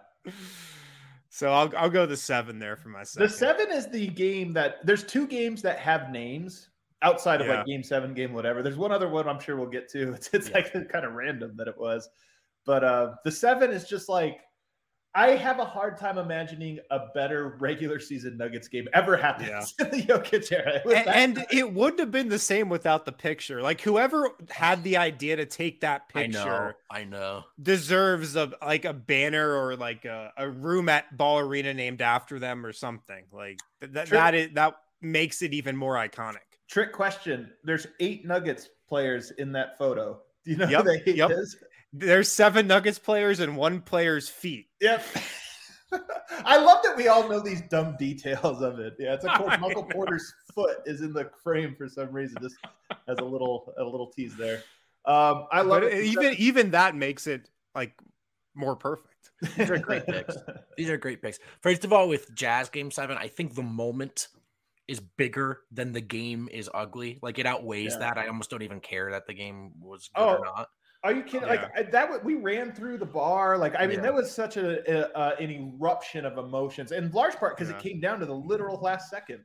So I'll I'll go the seven there for my second. The seven is the game that there's two games that have names outside of yeah. like game seven, game whatever. There's one other one I'm sure we'll get to. It's, it's yeah. like kind of random that it was. But uh the seven is just like I have a hard time imagining a better regular season Nuggets game ever happened yeah. in the Jokic era. It and, and it wouldn't have been the same without the picture. Like whoever had the idea to take that picture, I know, I know. deserves a like a banner or like a, a room at Ball Arena named after them or something. Like that Trick, that is that makes it even more iconic. Trick question: there's eight Nuggets players in that photo. Do you know yep, who the eight yep. is? There's seven Nuggets players and one player's feet. Yep. I love that we all know these dumb details of it. Yeah, it's of course Michael Porter's foot is in the frame for some reason. Just as a little a little tease there. Um, I love but it. Even even that makes it like more perfect. These are great picks. These are great picks. First of all, with Jazz Game Seven, I think the moment is bigger than the game is ugly. Like it outweighs yeah. that. I almost don't even care that the game was good oh. or not. Are you kidding? Yeah. Like that, we ran through the bar. Like I mean, yeah. that was such a, a uh, an eruption of emotions, in large part because yeah. it came down to the literal last second.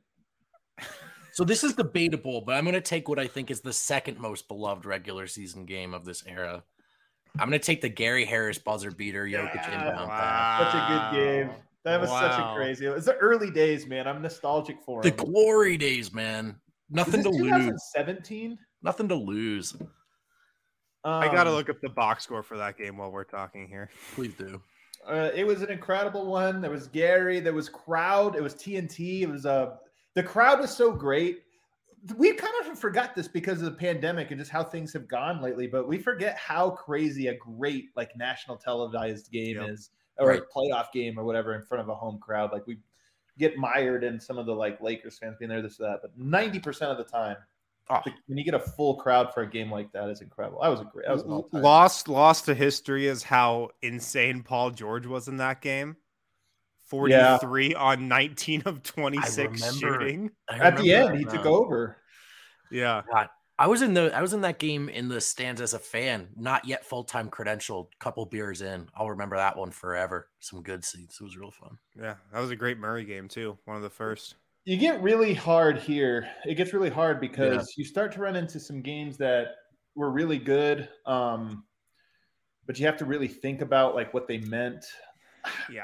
So this is debatable, but I'm going to take what I think is the second most beloved regular season game of this era. I'm going to take the Gary Harris buzzer beater, Jokic yeah. inbound. Wow. Such a good game. That was wow. such a crazy. It was the early days, man. I'm nostalgic for the them. glory days, man. Nothing to lose. twenty seventeen Nothing to lose. Um, I got to look up the box score for that game while we're talking here. Please do. Uh, it was an incredible one. There was Gary. There was crowd. It was T N T. It was uh, the crowd was so great. We kind of forgot this because of the pandemic and just how things have gone lately. But we forget how crazy a great like national televised game yep. is, or right. a playoff game or whatever in front of a home crowd. Like we get mired in some of the like Lakers fans being there, this or that. But ninety percent of the time. Oh. When you get a full crowd for a game like that, is incredible. That was a great. That was an all-time. Lost, lost to history is how insane Paul George was in that game. Forty-three yeah. on nineteen of twenty-six shooting. At the end, he took over. Yeah, God, I was in the. I was in that game in the stands as a fan, not yet full-time credentialed. Couple beers in, I'll remember that one forever. Some good seats. It was real fun. Yeah, that was a great Murray game too. One of the first. you get really hard here. It gets really hard because yeah. you start to run into some games that were really good, um, but you have to really think about like what they meant. Yeah.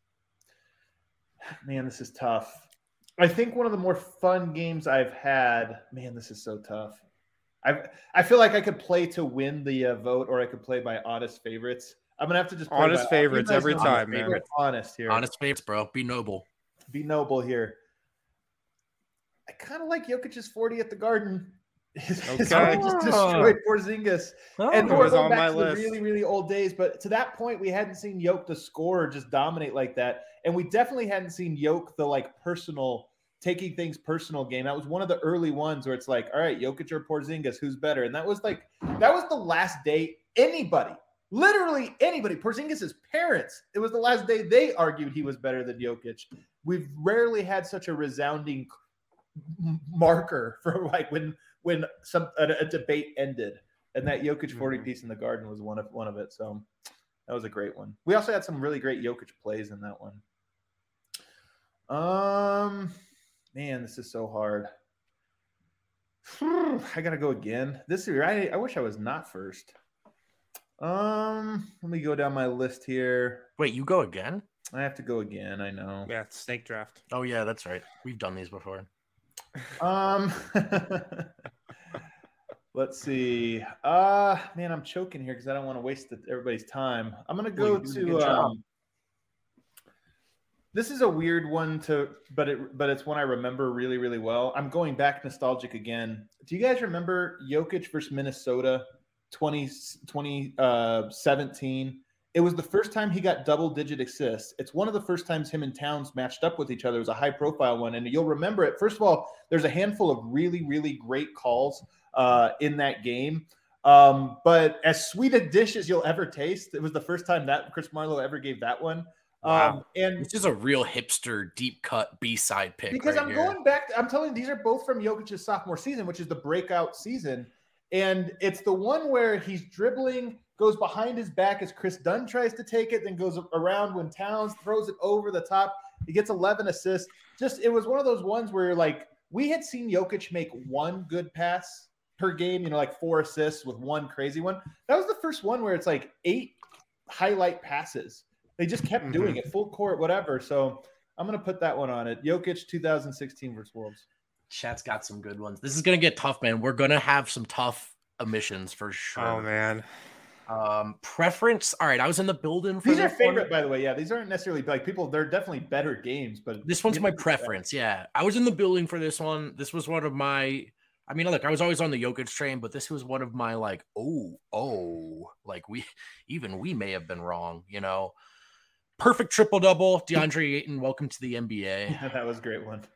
Man, this is tough. I think one of the more fun games I've had, man, this is so tough. I I feel like I could play to win the uh, vote, or I could play by honest favorites. I'm going to have to just play honest by, favorites every time, man. Favorite. Honest here. Honest favorites, bro. Be noble. Be noble here. I kind of like Jokic's forty at the Garden. Okay. Just destroyed Porzingis. Oh, and we're going on back my to list. the really, really old days. But to that point, we hadn't seen Jokic the scorer just dominate like that. And we definitely hadn't seen Jokic the like personal, taking things personal game. That was one of the early ones where it's like, all right, Jokic or Porzingis, who's better? And that was like, that was the last day anybody, literally anybody, Porzingis' parents, it was the last day they argued he was better than Jokic. We've rarely had such a resounding marker for like when when some a, a debate ended, and that Jokic forty piece in the Garden was one of one of it. So that was a great one. We also had some really great Jokic plays in that one. Um, man, this is so hard. I gotta go again. This year, I I wish I was not first. Um, let me go down my list here. Wait, you go again? I have to go again. I know. Yeah, it's snake draft. Oh yeah, that's right. We've done these before. Um, let's see. Uh, man, I'm choking here because I don't want to waste the, everybody's time. I'm gonna go well, to. Um, this is a weird one to, but it, but it's one I remember really, really well. I'm going back nostalgic again. Do you guys remember Jokic versus Minnesota, twenty seventeen? It was the first time he got double-digit assists. It's one of the first times him and Towns matched up with each other. It was a high-profile one, and you'll remember it. First of all, there's a handful of really, really great calls uh, in that game. Um, but as sweet a dish as you'll ever taste, it was the first time that Chris Marlowe ever gave that one. Wow. Um, and this is a real hipster, deep-cut B-side pick. Because right I'm here. going back – I'm telling you, these are both from Jokic's sophomore season, which is the breakout season. And it's the one where he's dribbling – goes behind his back as Chris Dunn tries to take it, then goes around when Towns throws it over the top. He gets eleven assists. Just, it was one of those ones where, like, we had seen Jokic make one good pass per game, you know, like four assists with one crazy one. That was the first one where it's like eight highlight passes. They just kept mm-hmm. doing it, full court, whatever. So I'm going to put that one on it. Jokic two thousand sixteen versus Wolves. Chat's got some good ones. This is going to get tough, man. We're going to have some tough omissions for sure. Oh, man. Um, preference. All right, I was in the building. For these are favorite, one. by the way. Yeah, these aren't necessarily like people. They're definitely better games, but this one's my preference. Yeah, I was in the building for this one. This was one of my. I mean, look, I was always on the Jokic train, but this was one of my like, oh, oh, like we, even we may have been wrong. You know, perfect triple double. DeAndre Ayton, welcome to the N B A. Yeah, that was a great one.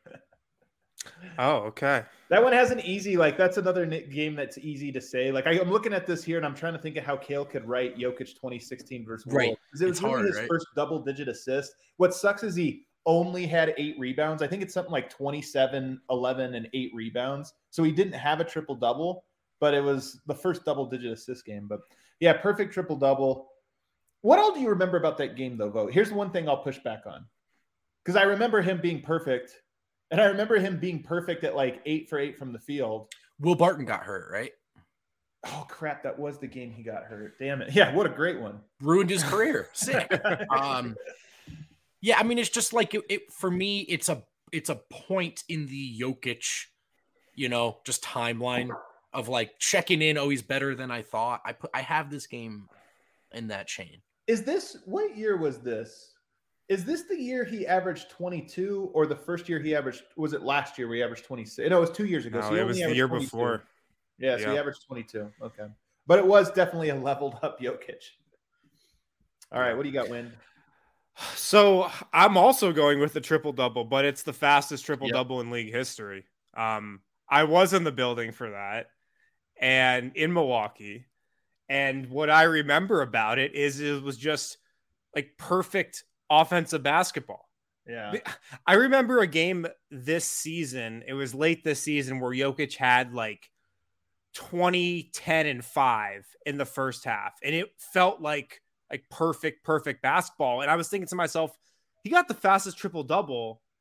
Oh, okay. That one has an easy, like, that's another game that's easy to say. Like, I, I'm looking at this here, and I'm trying to think of how Kale could write Jokic twenty sixteen versus Wolves. Right. Because it was it's really hard, his right? first double-digit assist. What sucks is he only had eight rebounds. I think it's something like twenty-seven, eleven, and eight rebounds. So he didn't have a triple-double, but it was the first double-digit assist game. But, yeah, perfect triple-double. What all do you remember about that game, though, Vogt? Here's the one thing I'll push back on. Because I remember him being perfect. And I remember him being perfect at like eight for eight from the field. Will Barton got hurt, right? Oh, crap. That was the game he got hurt. Damn it. Yeah, what a great one. Ruined his career. Sick. um, yeah, I mean, it's just like it, it for me, it's a it's a point in the Jokic, you know, just timeline of like checking in. Oh, he's better than I thought. I put I have this game in that chain. Is this what year was this? Is this the year he averaged twenty-two, or the first year he averaged? Was it last year where he averaged twenty-six? No, it was two years ago. No, so it was the year twenty-two. before. Yeah, so yeah. he averaged twenty-two. Okay, but it was definitely a leveled up Jokic. All right, what do you got, Win? So I'm also going with the triple double, but it's the fastest triple double yep. in league history. Um, I was in the building for that, and in Milwaukee, and what I remember about it is it was just like perfect offensive basketball. Yeah. I remember a game this season. It was late this season where Jokic had like twenty, ten, and five in the first half. And it felt like like perfect, perfect basketball. And I was thinking to myself, he got the fastest triple double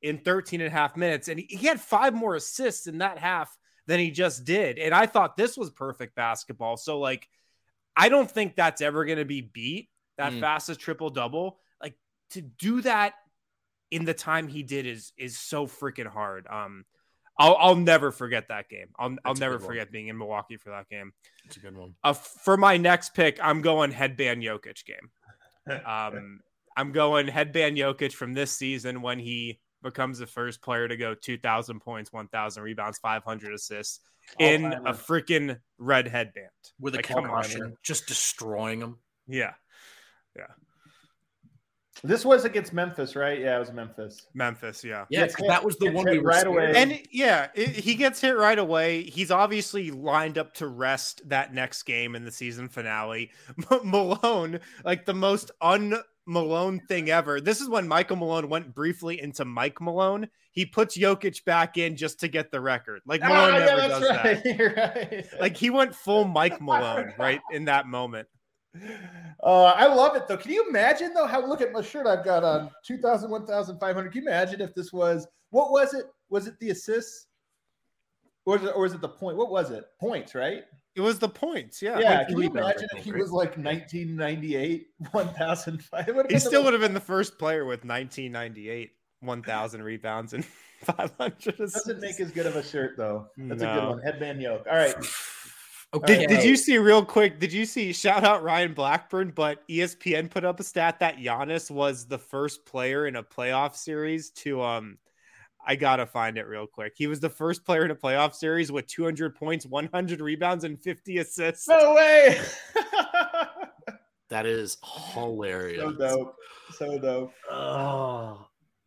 in thirteen and a half minutes. And he, he had five more assists in that half than he just did. And I thought this was perfect basketball. So like, I don't think that's ever going to be beat, that mm. fastest triple double. Like to do that in the time he did is, is so freaking hard. Um, I'll, I'll never forget that game. I'll, that's I'll never forget being in Milwaukee for that game. It's a good one. Uh, for my next pick, I'm going headband Jokic game. Um, I'm going headband Jokic from this season when he becomes the first player to go two thousand points, one thousand rebounds, five hundred assists All in time. a freaking red headband. With a like, concussion, just destroying them. Yeah. Yeah. This was against Memphis, right? Yeah, it was Memphis. Memphis, yeah. Yeah, because that was the one we were right away. And yeah, it, he gets hit right away. He's obviously lined up to rest that next game in the season finale. Malone, like the most un-Malone thing ever. This is when Michael Malone went briefly into Mike Malone. He puts Jokic back in just to get the record. Like Malone oh, never yeah, does right. that. You're right. Like he went full Mike Malone right in that moment. Uh, I love it though. Can you imagine though how look at my shirt I've got on two thousand, one thousand five hundred. Can you imagine if this was what was it? Was it the assists? Or was it, or was it the point? What was it? Points, right? It was the points, yeah. Yeah. Can you imagine if he was like nineteen ninety-eight, one thousand five hundred? He still would have been the first player with nineteen ninety-eight, one thousand rebounds and five hundred assists. Doesn't make as good of a shirt though. That's no. a good one. Headband yoke. All right. Okay. Did, did you see real quick? Did you see shout out Ryan Blackburn? But E S P N put up a stat that Giannis was the first player in a playoff series to um. I gotta find it real quick. He was the first player in a playoff series with two hundred points, one hundred rebounds, and fifty assists. No way! That is hilarious. So dope. So dope. Oh.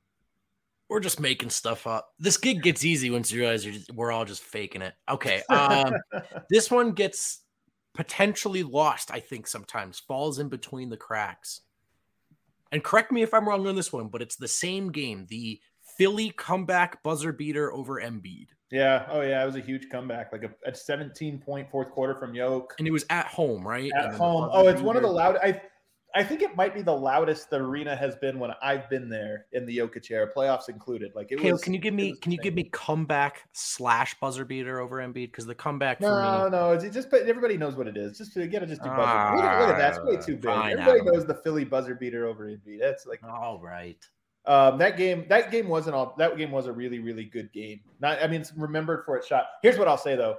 We're just making stuff up. This gig gets easy once you realize you're just, we're all just faking it. Okay. Um, this one gets potentially lost, I think, sometimes. Falls in between the cracks. And correct me if I'm wrong on this one, but it's the same game. The Philly comeback buzzer beater over Embiid. Yeah. Oh, yeah. It was a huge comeback. Like a, a seventeen-point fourth quarter from Yoke. And it was at home, right? At home. Oh, it's one of the loud... I I think it might be the loudest the arena has been when I've been there in the Jokic era, playoffs included. Like it Kale, was. Can you give me? Can you give me comeback slash buzzer beater over Embiid? Because the comeback. No, for me, no, it's just. But everybody knows what it is. Just you gotta just do buzzer. Ah, look, at, look at that. It's way too big. Everybody knows the Philly buzzer beater over Embiid. That's like. All right. Um, that game. That game wasn't all. That game was a really, really good game. Not. I mean, it's remembered for its shot. Here's what I'll say though.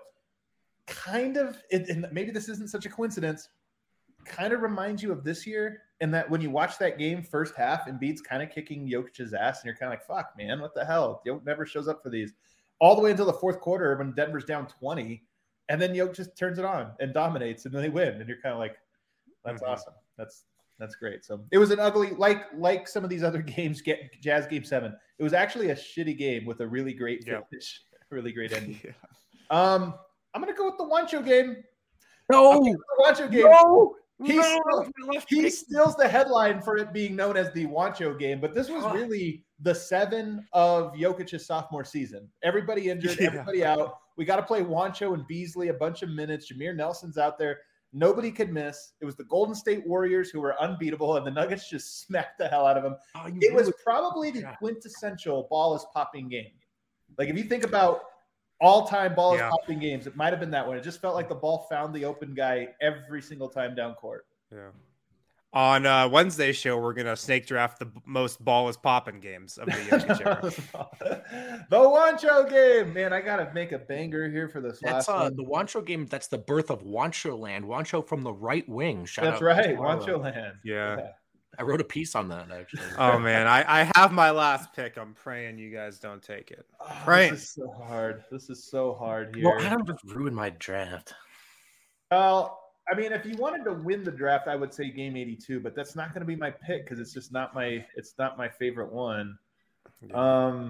Kind of. It, and maybe this isn't such a coincidence. Kind of reminds you of this year, in that when you watch that game first half, Embiid's kind of kicking Jokic's ass, and you're kind of like, "Fuck, man, what the hell?" Jokic never shows up for these, all the way until the fourth quarter when Denver's down twenty, and then Jokic just turns it on and dominates, and then they win, and you're kind of like, "That's mm-hmm. awesome. That's that's great." So it was an ugly, like like some of these other games, get Jazz Game Seven. It was actually a shitty game with a really great finish, yep. really great ending. yeah. Um, I'm gonna go with the Juancho game. No, the Juancho game. No. He, no, still, he steals the headline for it being known as the Juancho game, but this was really the seven of Jokic's sophomore season. Everybody injured, yeah. everybody out. We got to play Juancho and Beasley a bunch of minutes. Jameer Nelson's out there. Nobody could miss. It was the Golden State Warriors who were unbeatable, and the Nuggets just smacked the hell out of them. Oh, it was probably the quintessential ball is popping game. Like if you think about all-time ball is yeah. popping games, it might have been that one. It just felt like the ball found the open guy every single time down court. Yeah. On uh, Wednesday's show, we're gonna snake draft the most ball is popping games of the Jokic era. The Juancho game, man. I gotta make a banger here for this that's, last uh, one. The Juancho game. That's the birth of Juancho Land. Juancho from the right wing. Shout that's out right, Juancho Land. Yeah. yeah. I wrote a piece on that actually. Oh man, I, I have my last pick. I'm praying you guys don't take it. Oh, praying. This is so hard. This is so hard here. Well, Adam just ruined my draft. Well, I mean, if you wanted to win the draft, I would say game eighty-two, but that's not going to be my pick because it's just not my it's not my favorite one. Um,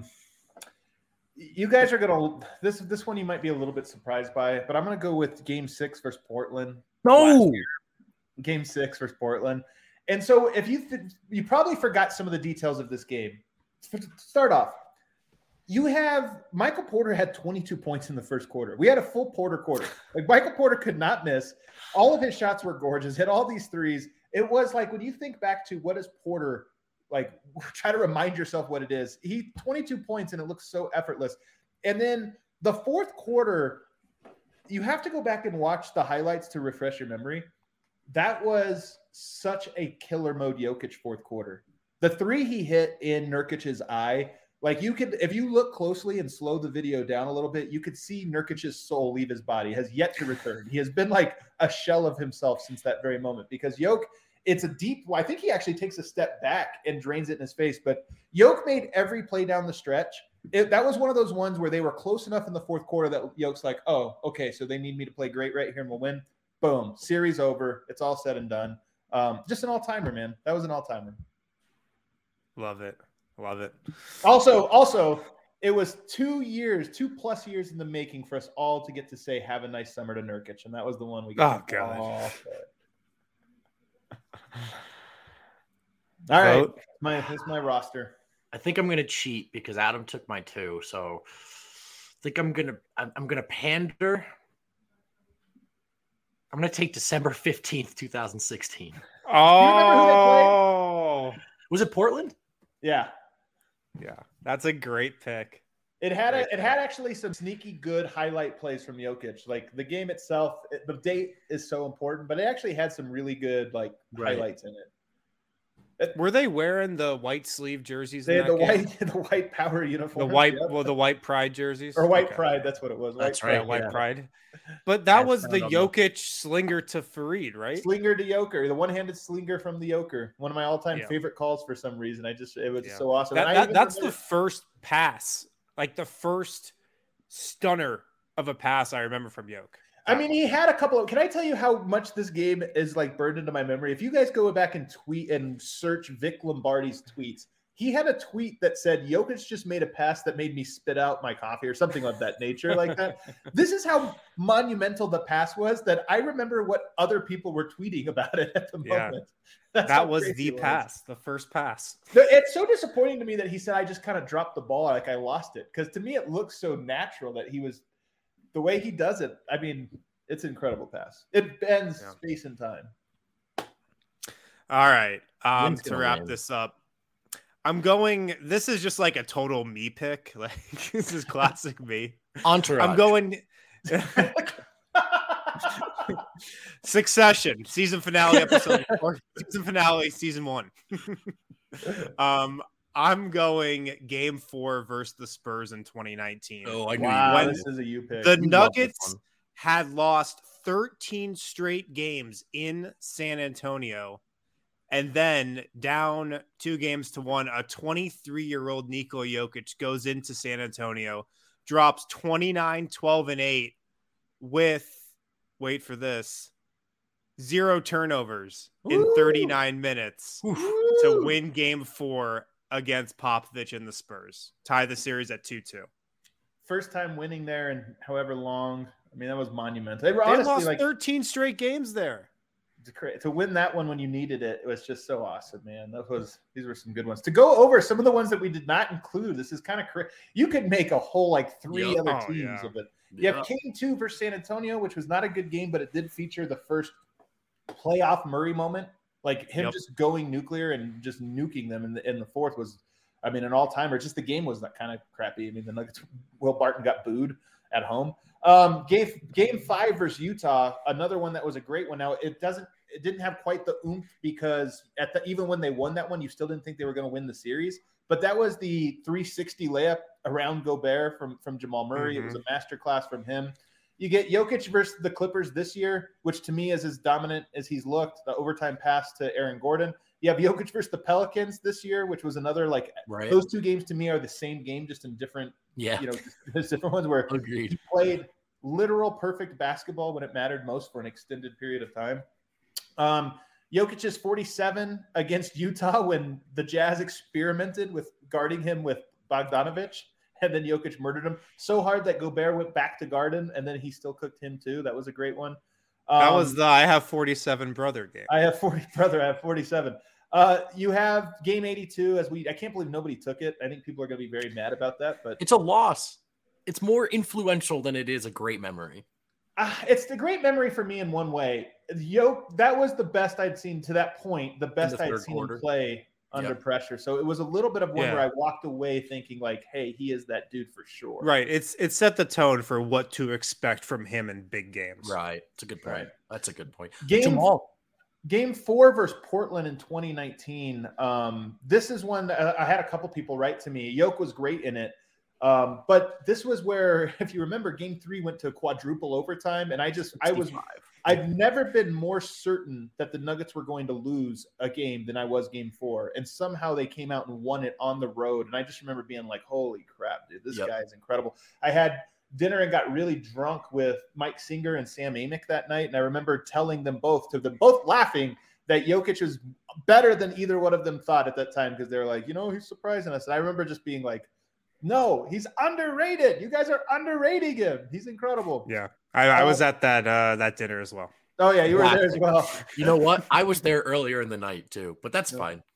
you guys are gonna this this one you might be a little bit surprised by, but I'm gonna go with game six versus Portland. No, game six versus Portland. And so if you th- you probably forgot some of the details of this game. To start off, you have Michael Porter had twenty-two points in the first quarter. We had a full Porter quarter. Like Michael Porter could not miss. All of his shots were gorgeous. Hit all these threes. It was like when you think back to what is Porter like try to remind yourself what it is. He twenty-two points and it looks so effortless. And then the fourth quarter, you have to go back and watch the highlights to refresh your memory. That was such a killer mode Jokic fourth quarter. The three he hit in Nurkic's eye, like you could, if you look closely and slow the video down a little bit, you could see Nurkic's soul leave his body. Has yet to return. He has been like a shell of himself since that very moment because Jokic, it's a deep, I think he actually takes a step back and drains it in his face, but Jokic made every play down the stretch. It, that was one of those ones where they were close enough in the fourth quarter that Jokic's like, oh, okay, so they need me to play great right here and we'll win. Boom, series over. It's all said and done. Um, just an all-timer, man. That was an all-timer. Love it. Love it. Also, also, it was two years, two plus years in the making for us all to get to say "Have a nice summer" to Nurkic, and that was the one we got. Oh god! All, all right, my this is my roster. I think I'm gonna cheat because Adam took my two, so I think I'm gonna I'm, I'm gonna pander. I'm gonna take December fifteenth, twenty sixteen. Oh, was it Portland? Yeah. Yeah, that's a great pick. It had a, it had actually some sneaky good highlight plays from Jokic. Like the game itself, it, the date is so important, but it actually had some really good like right. highlights in it. it. Were they wearing the white sleeve jerseys? They in had that the game? white, the white power uniform. The white, yep. well, the white pride jerseys or white okay. pride. That's what it was. White that's pride, right. White yeah. pride. But that That's was the Jokic slinger to Fareed, right? Slinger to Joker, the one-handed slinger from the Joker. One of my all-time yeah. favorite calls for some reason. I just it was yeah. so awesome. That, that, that's remember... the first pass, like the first stunner of a pass I remember from Jokic. I mean, he had a couple of. Can I tell you how much this game is like burned into my memory? If you guys go back and tweet and search Vic Lombardi's tweets, he had a tweet that said, Jokic just made a pass that made me spit out my coffee or something of that nature like that. This is how monumental the pass was that I remember what other people were tweeting about it at the yeah. moment. That's that was the was. pass, the first pass. It's so disappointing to me that he said, I just kind of dropped the ball like I lost it. Because to me, it looks so natural that he was – the way he does it, I mean, it's an incredible pass. It bends yeah. space and time. All right. Um, to wrap win. this up. I'm going. This is just like a total me pick. Like this is classic me. Entourage. I'm going. Succession season finale episode or season finale season one. um, I'm going game four versus the Spurs in twenty nineteen. Oh, I knew wow, you. This is a you pick. The you Nuggets had lost thirteen straight games in San Antonio. And then down two games to one, a twenty-three-year-old Nikola Jokic goes into San Antonio, drops twenty-nine, twelve, and eight with, wait for this, zero turnovers Ooh. in thirty-nine minutes Ooh. to win game four against Popovich and the Spurs. Tie the series at two two. First time winning there in however long. I mean, that was monumental. They, were they honestly lost like thirteen straight games there. To win that one when you needed it, it was just so awesome, man. That was these were some good ones. To go over some of the ones that we did not include, this is kind of crazy. You could make a whole like three yep. other oh, teams yeah. of it. You yep. have Game Two versus San Antonio, which was not a good game, but it did feature the first playoff Murray moment, like him yep. just going nuclear and just nuking them in the in the fourth was, I mean, an all timer. Just the game was that kind of crappy. I mean, the Nuggets, Will Barton got booed at home. Um, game Game Five versus Utah, another one that was a great one. Now it doesn't. It didn't have quite the oomph because at the even when they won that one, you still didn't think they were going to win the series. But that was the three sixty layup around Gobert from, from Jamal Murray. Mm-hmm. It was a masterclass from him. You get Jokic versus the Clippers this year, which to me is as dominant as he's looked. The overtime pass to Aaron Gordon. You have Jokic versus the Pelicans this year, which was another like right. those two games to me are the same game, just in different, yeah, you know, there's different ones where Agreed. he played literal perfect basketball when it mattered most for an extended period of time. Um, Jokic is forty-seven against Utah when the Jazz experimented with guarding him with Bogdanovich, and then Jokic murdered him so hard that Gobert went back to guard him, and then he still cooked him too. That was a great one. Um, that was the I have forty-seven brother game. I have forty brother. I have forty-seven. Uh, you have game eighty-two as we. I can't believe nobody took it. I think people are going to be very mad about that, but it's a loss. It's more influential than it is a great memory. Uh, it's the great memory for me in one way. Yo, that was the best I'd seen to that point. The best the I'd seen quarter. him play under yep. pressure. So it was a little bit of one yeah. where I walked away thinking like, hey, he is that dude for sure. Right. It's it set the tone for what to expect from him in big games. Right. It's a good point. Right. That's a good point. Game, Jamal. Game four versus Portland in twenty nineteen. Um, this is one that I had a couple people write to me. Yoke was great in it. Um, but this was where, if you remember, game three went to quadruple overtime. And I just, I was, I've never been more certain that the Nuggets were going to lose a game than I was game four. And somehow they came out and won it on the road. And I just remember being like, holy crap, dude, this yep. guy is incredible. I had dinner and got really drunk with Mike Singer and Sam Amick that night. And I remember telling them both, to them both laughing, that Jokic is better than either one of them thought at that time. Because they were like, you know, he's surprising us. And I remember just being like, no, he's underrated. You guys are underrating him. He's incredible. Yeah, I, I was at that uh, that dinner as well. Oh yeah, you were there as well. You know what? I was there earlier in the night too, but that's yeah. fine.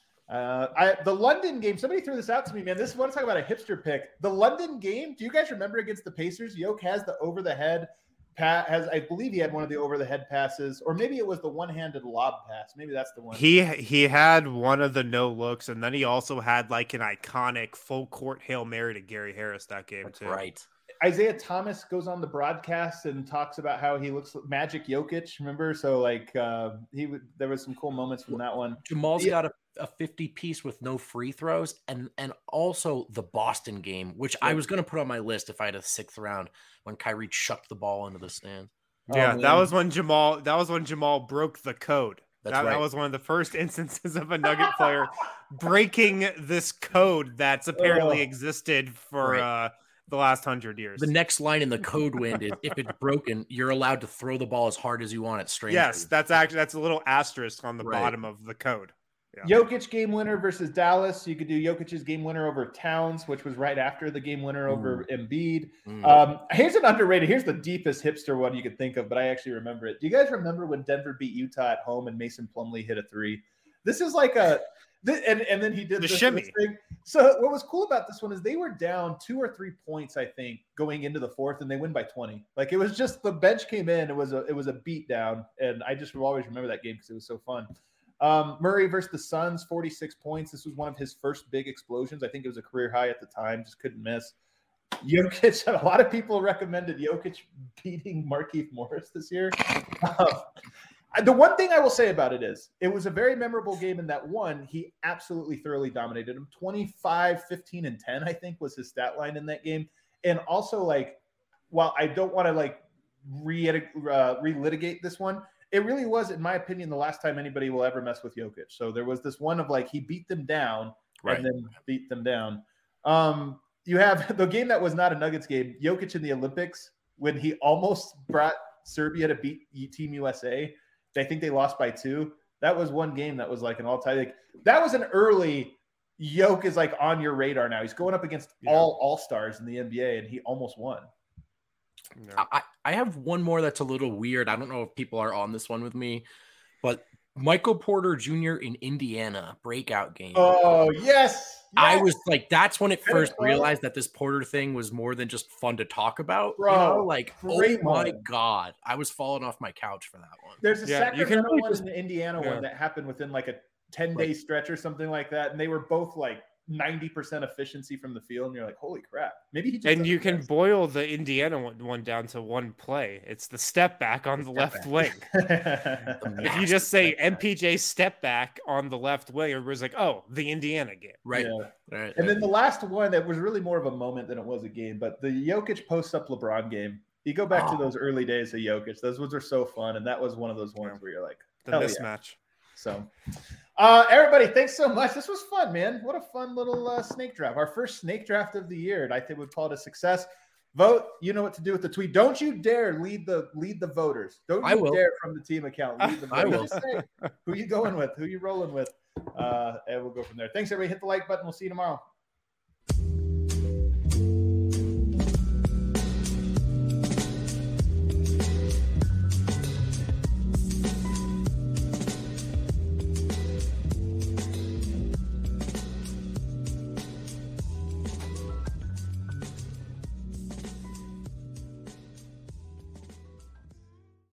Uh, I the London game. Somebody threw this out to me, man. This is want to talk about a hipster pick. The London game. Do you guys remember against the Pacers? Yoke has the over the head. Pat has, I believe he had one of the over the head passes, or maybe it was the one handed lob pass. Maybe that's the one. He he had one of the no looks, and then he also had like an iconic full court Hail Mary to Gary Harris that game that's too. Right. Isaiah Thomas goes on the broadcast and talks about how he looks like Magic Jokic. Remember? So like uh, he would. There was some cool moments from that one. Jamal's yeah. got a, a fifty piece with no free throws, and and also the Boston game, which yeah. I was going to put on my list if I had a sixth round when Kyrie chucked the ball into the stand. Yeah, oh, that was when Jamal. That was when Jamal broke the code. That's that, right. that was one of the first instances of a Nugget player breaking this code that's apparently oh. existed for. Right. Uh, the last hundred years. The next line in the code wind is if it's broken, you're allowed to throw the ball as hard as you want at strangers. Yes, that's actually that's a little asterisk on the right. bottom of the code. Yeah. Jokic game winner versus Dallas. You could do Jokic's game winner over Towns, which was right after the game winner over mm. Embiid. Mm. Um, here's an underrated. Here's the deepest hipster one you could think of, but I actually remember it. Do you guys remember when Denver beat Utah at home and Mason Plumlee hit a three? This is like a and and then he did the this, shimmy. This thing. So what was cool about this one is they were down two or three points, I think, going into the fourth, and they win by twenty. Like it was just the bench came in. It was a it was a beat down, and I just will always remember that game because it was so fun. Um, Murray versus the Suns, forty-six points. This was one of his first big explosions. I think it was a career high at the time. Just couldn't miss. Jokic. A lot of people recommended Jokic beating Markieff Morris this year. Um, The one thing I will say about it is it was a very memorable game in that one, he absolutely thoroughly dominated him. twenty-five, fifteen, and ten, I think, was his stat line in that game. And also, like, while I don't want to, like, re- uh, relitigate this one, it really was, in my opinion, the last time anybody will ever mess with Jokic. So there was this one of, like, he beat them down right. and then beat them down. Um, you have the game that was not a Nuggets game, Jokic in the Olympics, when he almost brought Serbia to beat Team U S A. I think they lost by two. That was one game that was like an all-time. Like, that was an early Yoke is like on your radar now. He's going up against yeah. all all-stars in the N B A, and he almost won. Yeah. I, I have one more that's a little weird. I don't know if people are on this one with me, but Michael Porter Junior in Indiana breakout game. Oh, yes. I was like, that's when it first realized that this Porter thing was more than just fun to talk about. Bro, you know? Like, oh my one. God. I was falling off my couch for that one. There's a yeah, Sacramento you can really one just, and the Indiana yeah. one that happened within like a ten-day right. stretch or something like that. And they were both like ninety percent efficiency from the field. And you're like, holy crap. Maybe he just And you can boil the Indiana one, one down to one play. It's the step back on the, the left back. wing. If you just say M P J step back on the left wing, everybody's like, oh, the Indiana game. Right. Yeah. right. And then the last one that was really more of a moment than it was a game, but the Jokic post-up LeBron game. You go back oh. to those early days of Jokic. Those ones are so fun. And that was one of those ones where you're like, the mismatch. Yeah. So, uh, everybody, thanks so much. This was fun, man. What a fun little uh, snake draft. Our first snake draft of the year, and I think we'd call it a success. Vote. You know what to do with the tweet. Don't you dare lead the lead the voters. Don't you I will. dare from the team account lead the voters. I will. Just say who you going with, who you rolling with, uh, and we'll go from there. Thanks, everybody. Hit the like button. We'll see you tomorrow.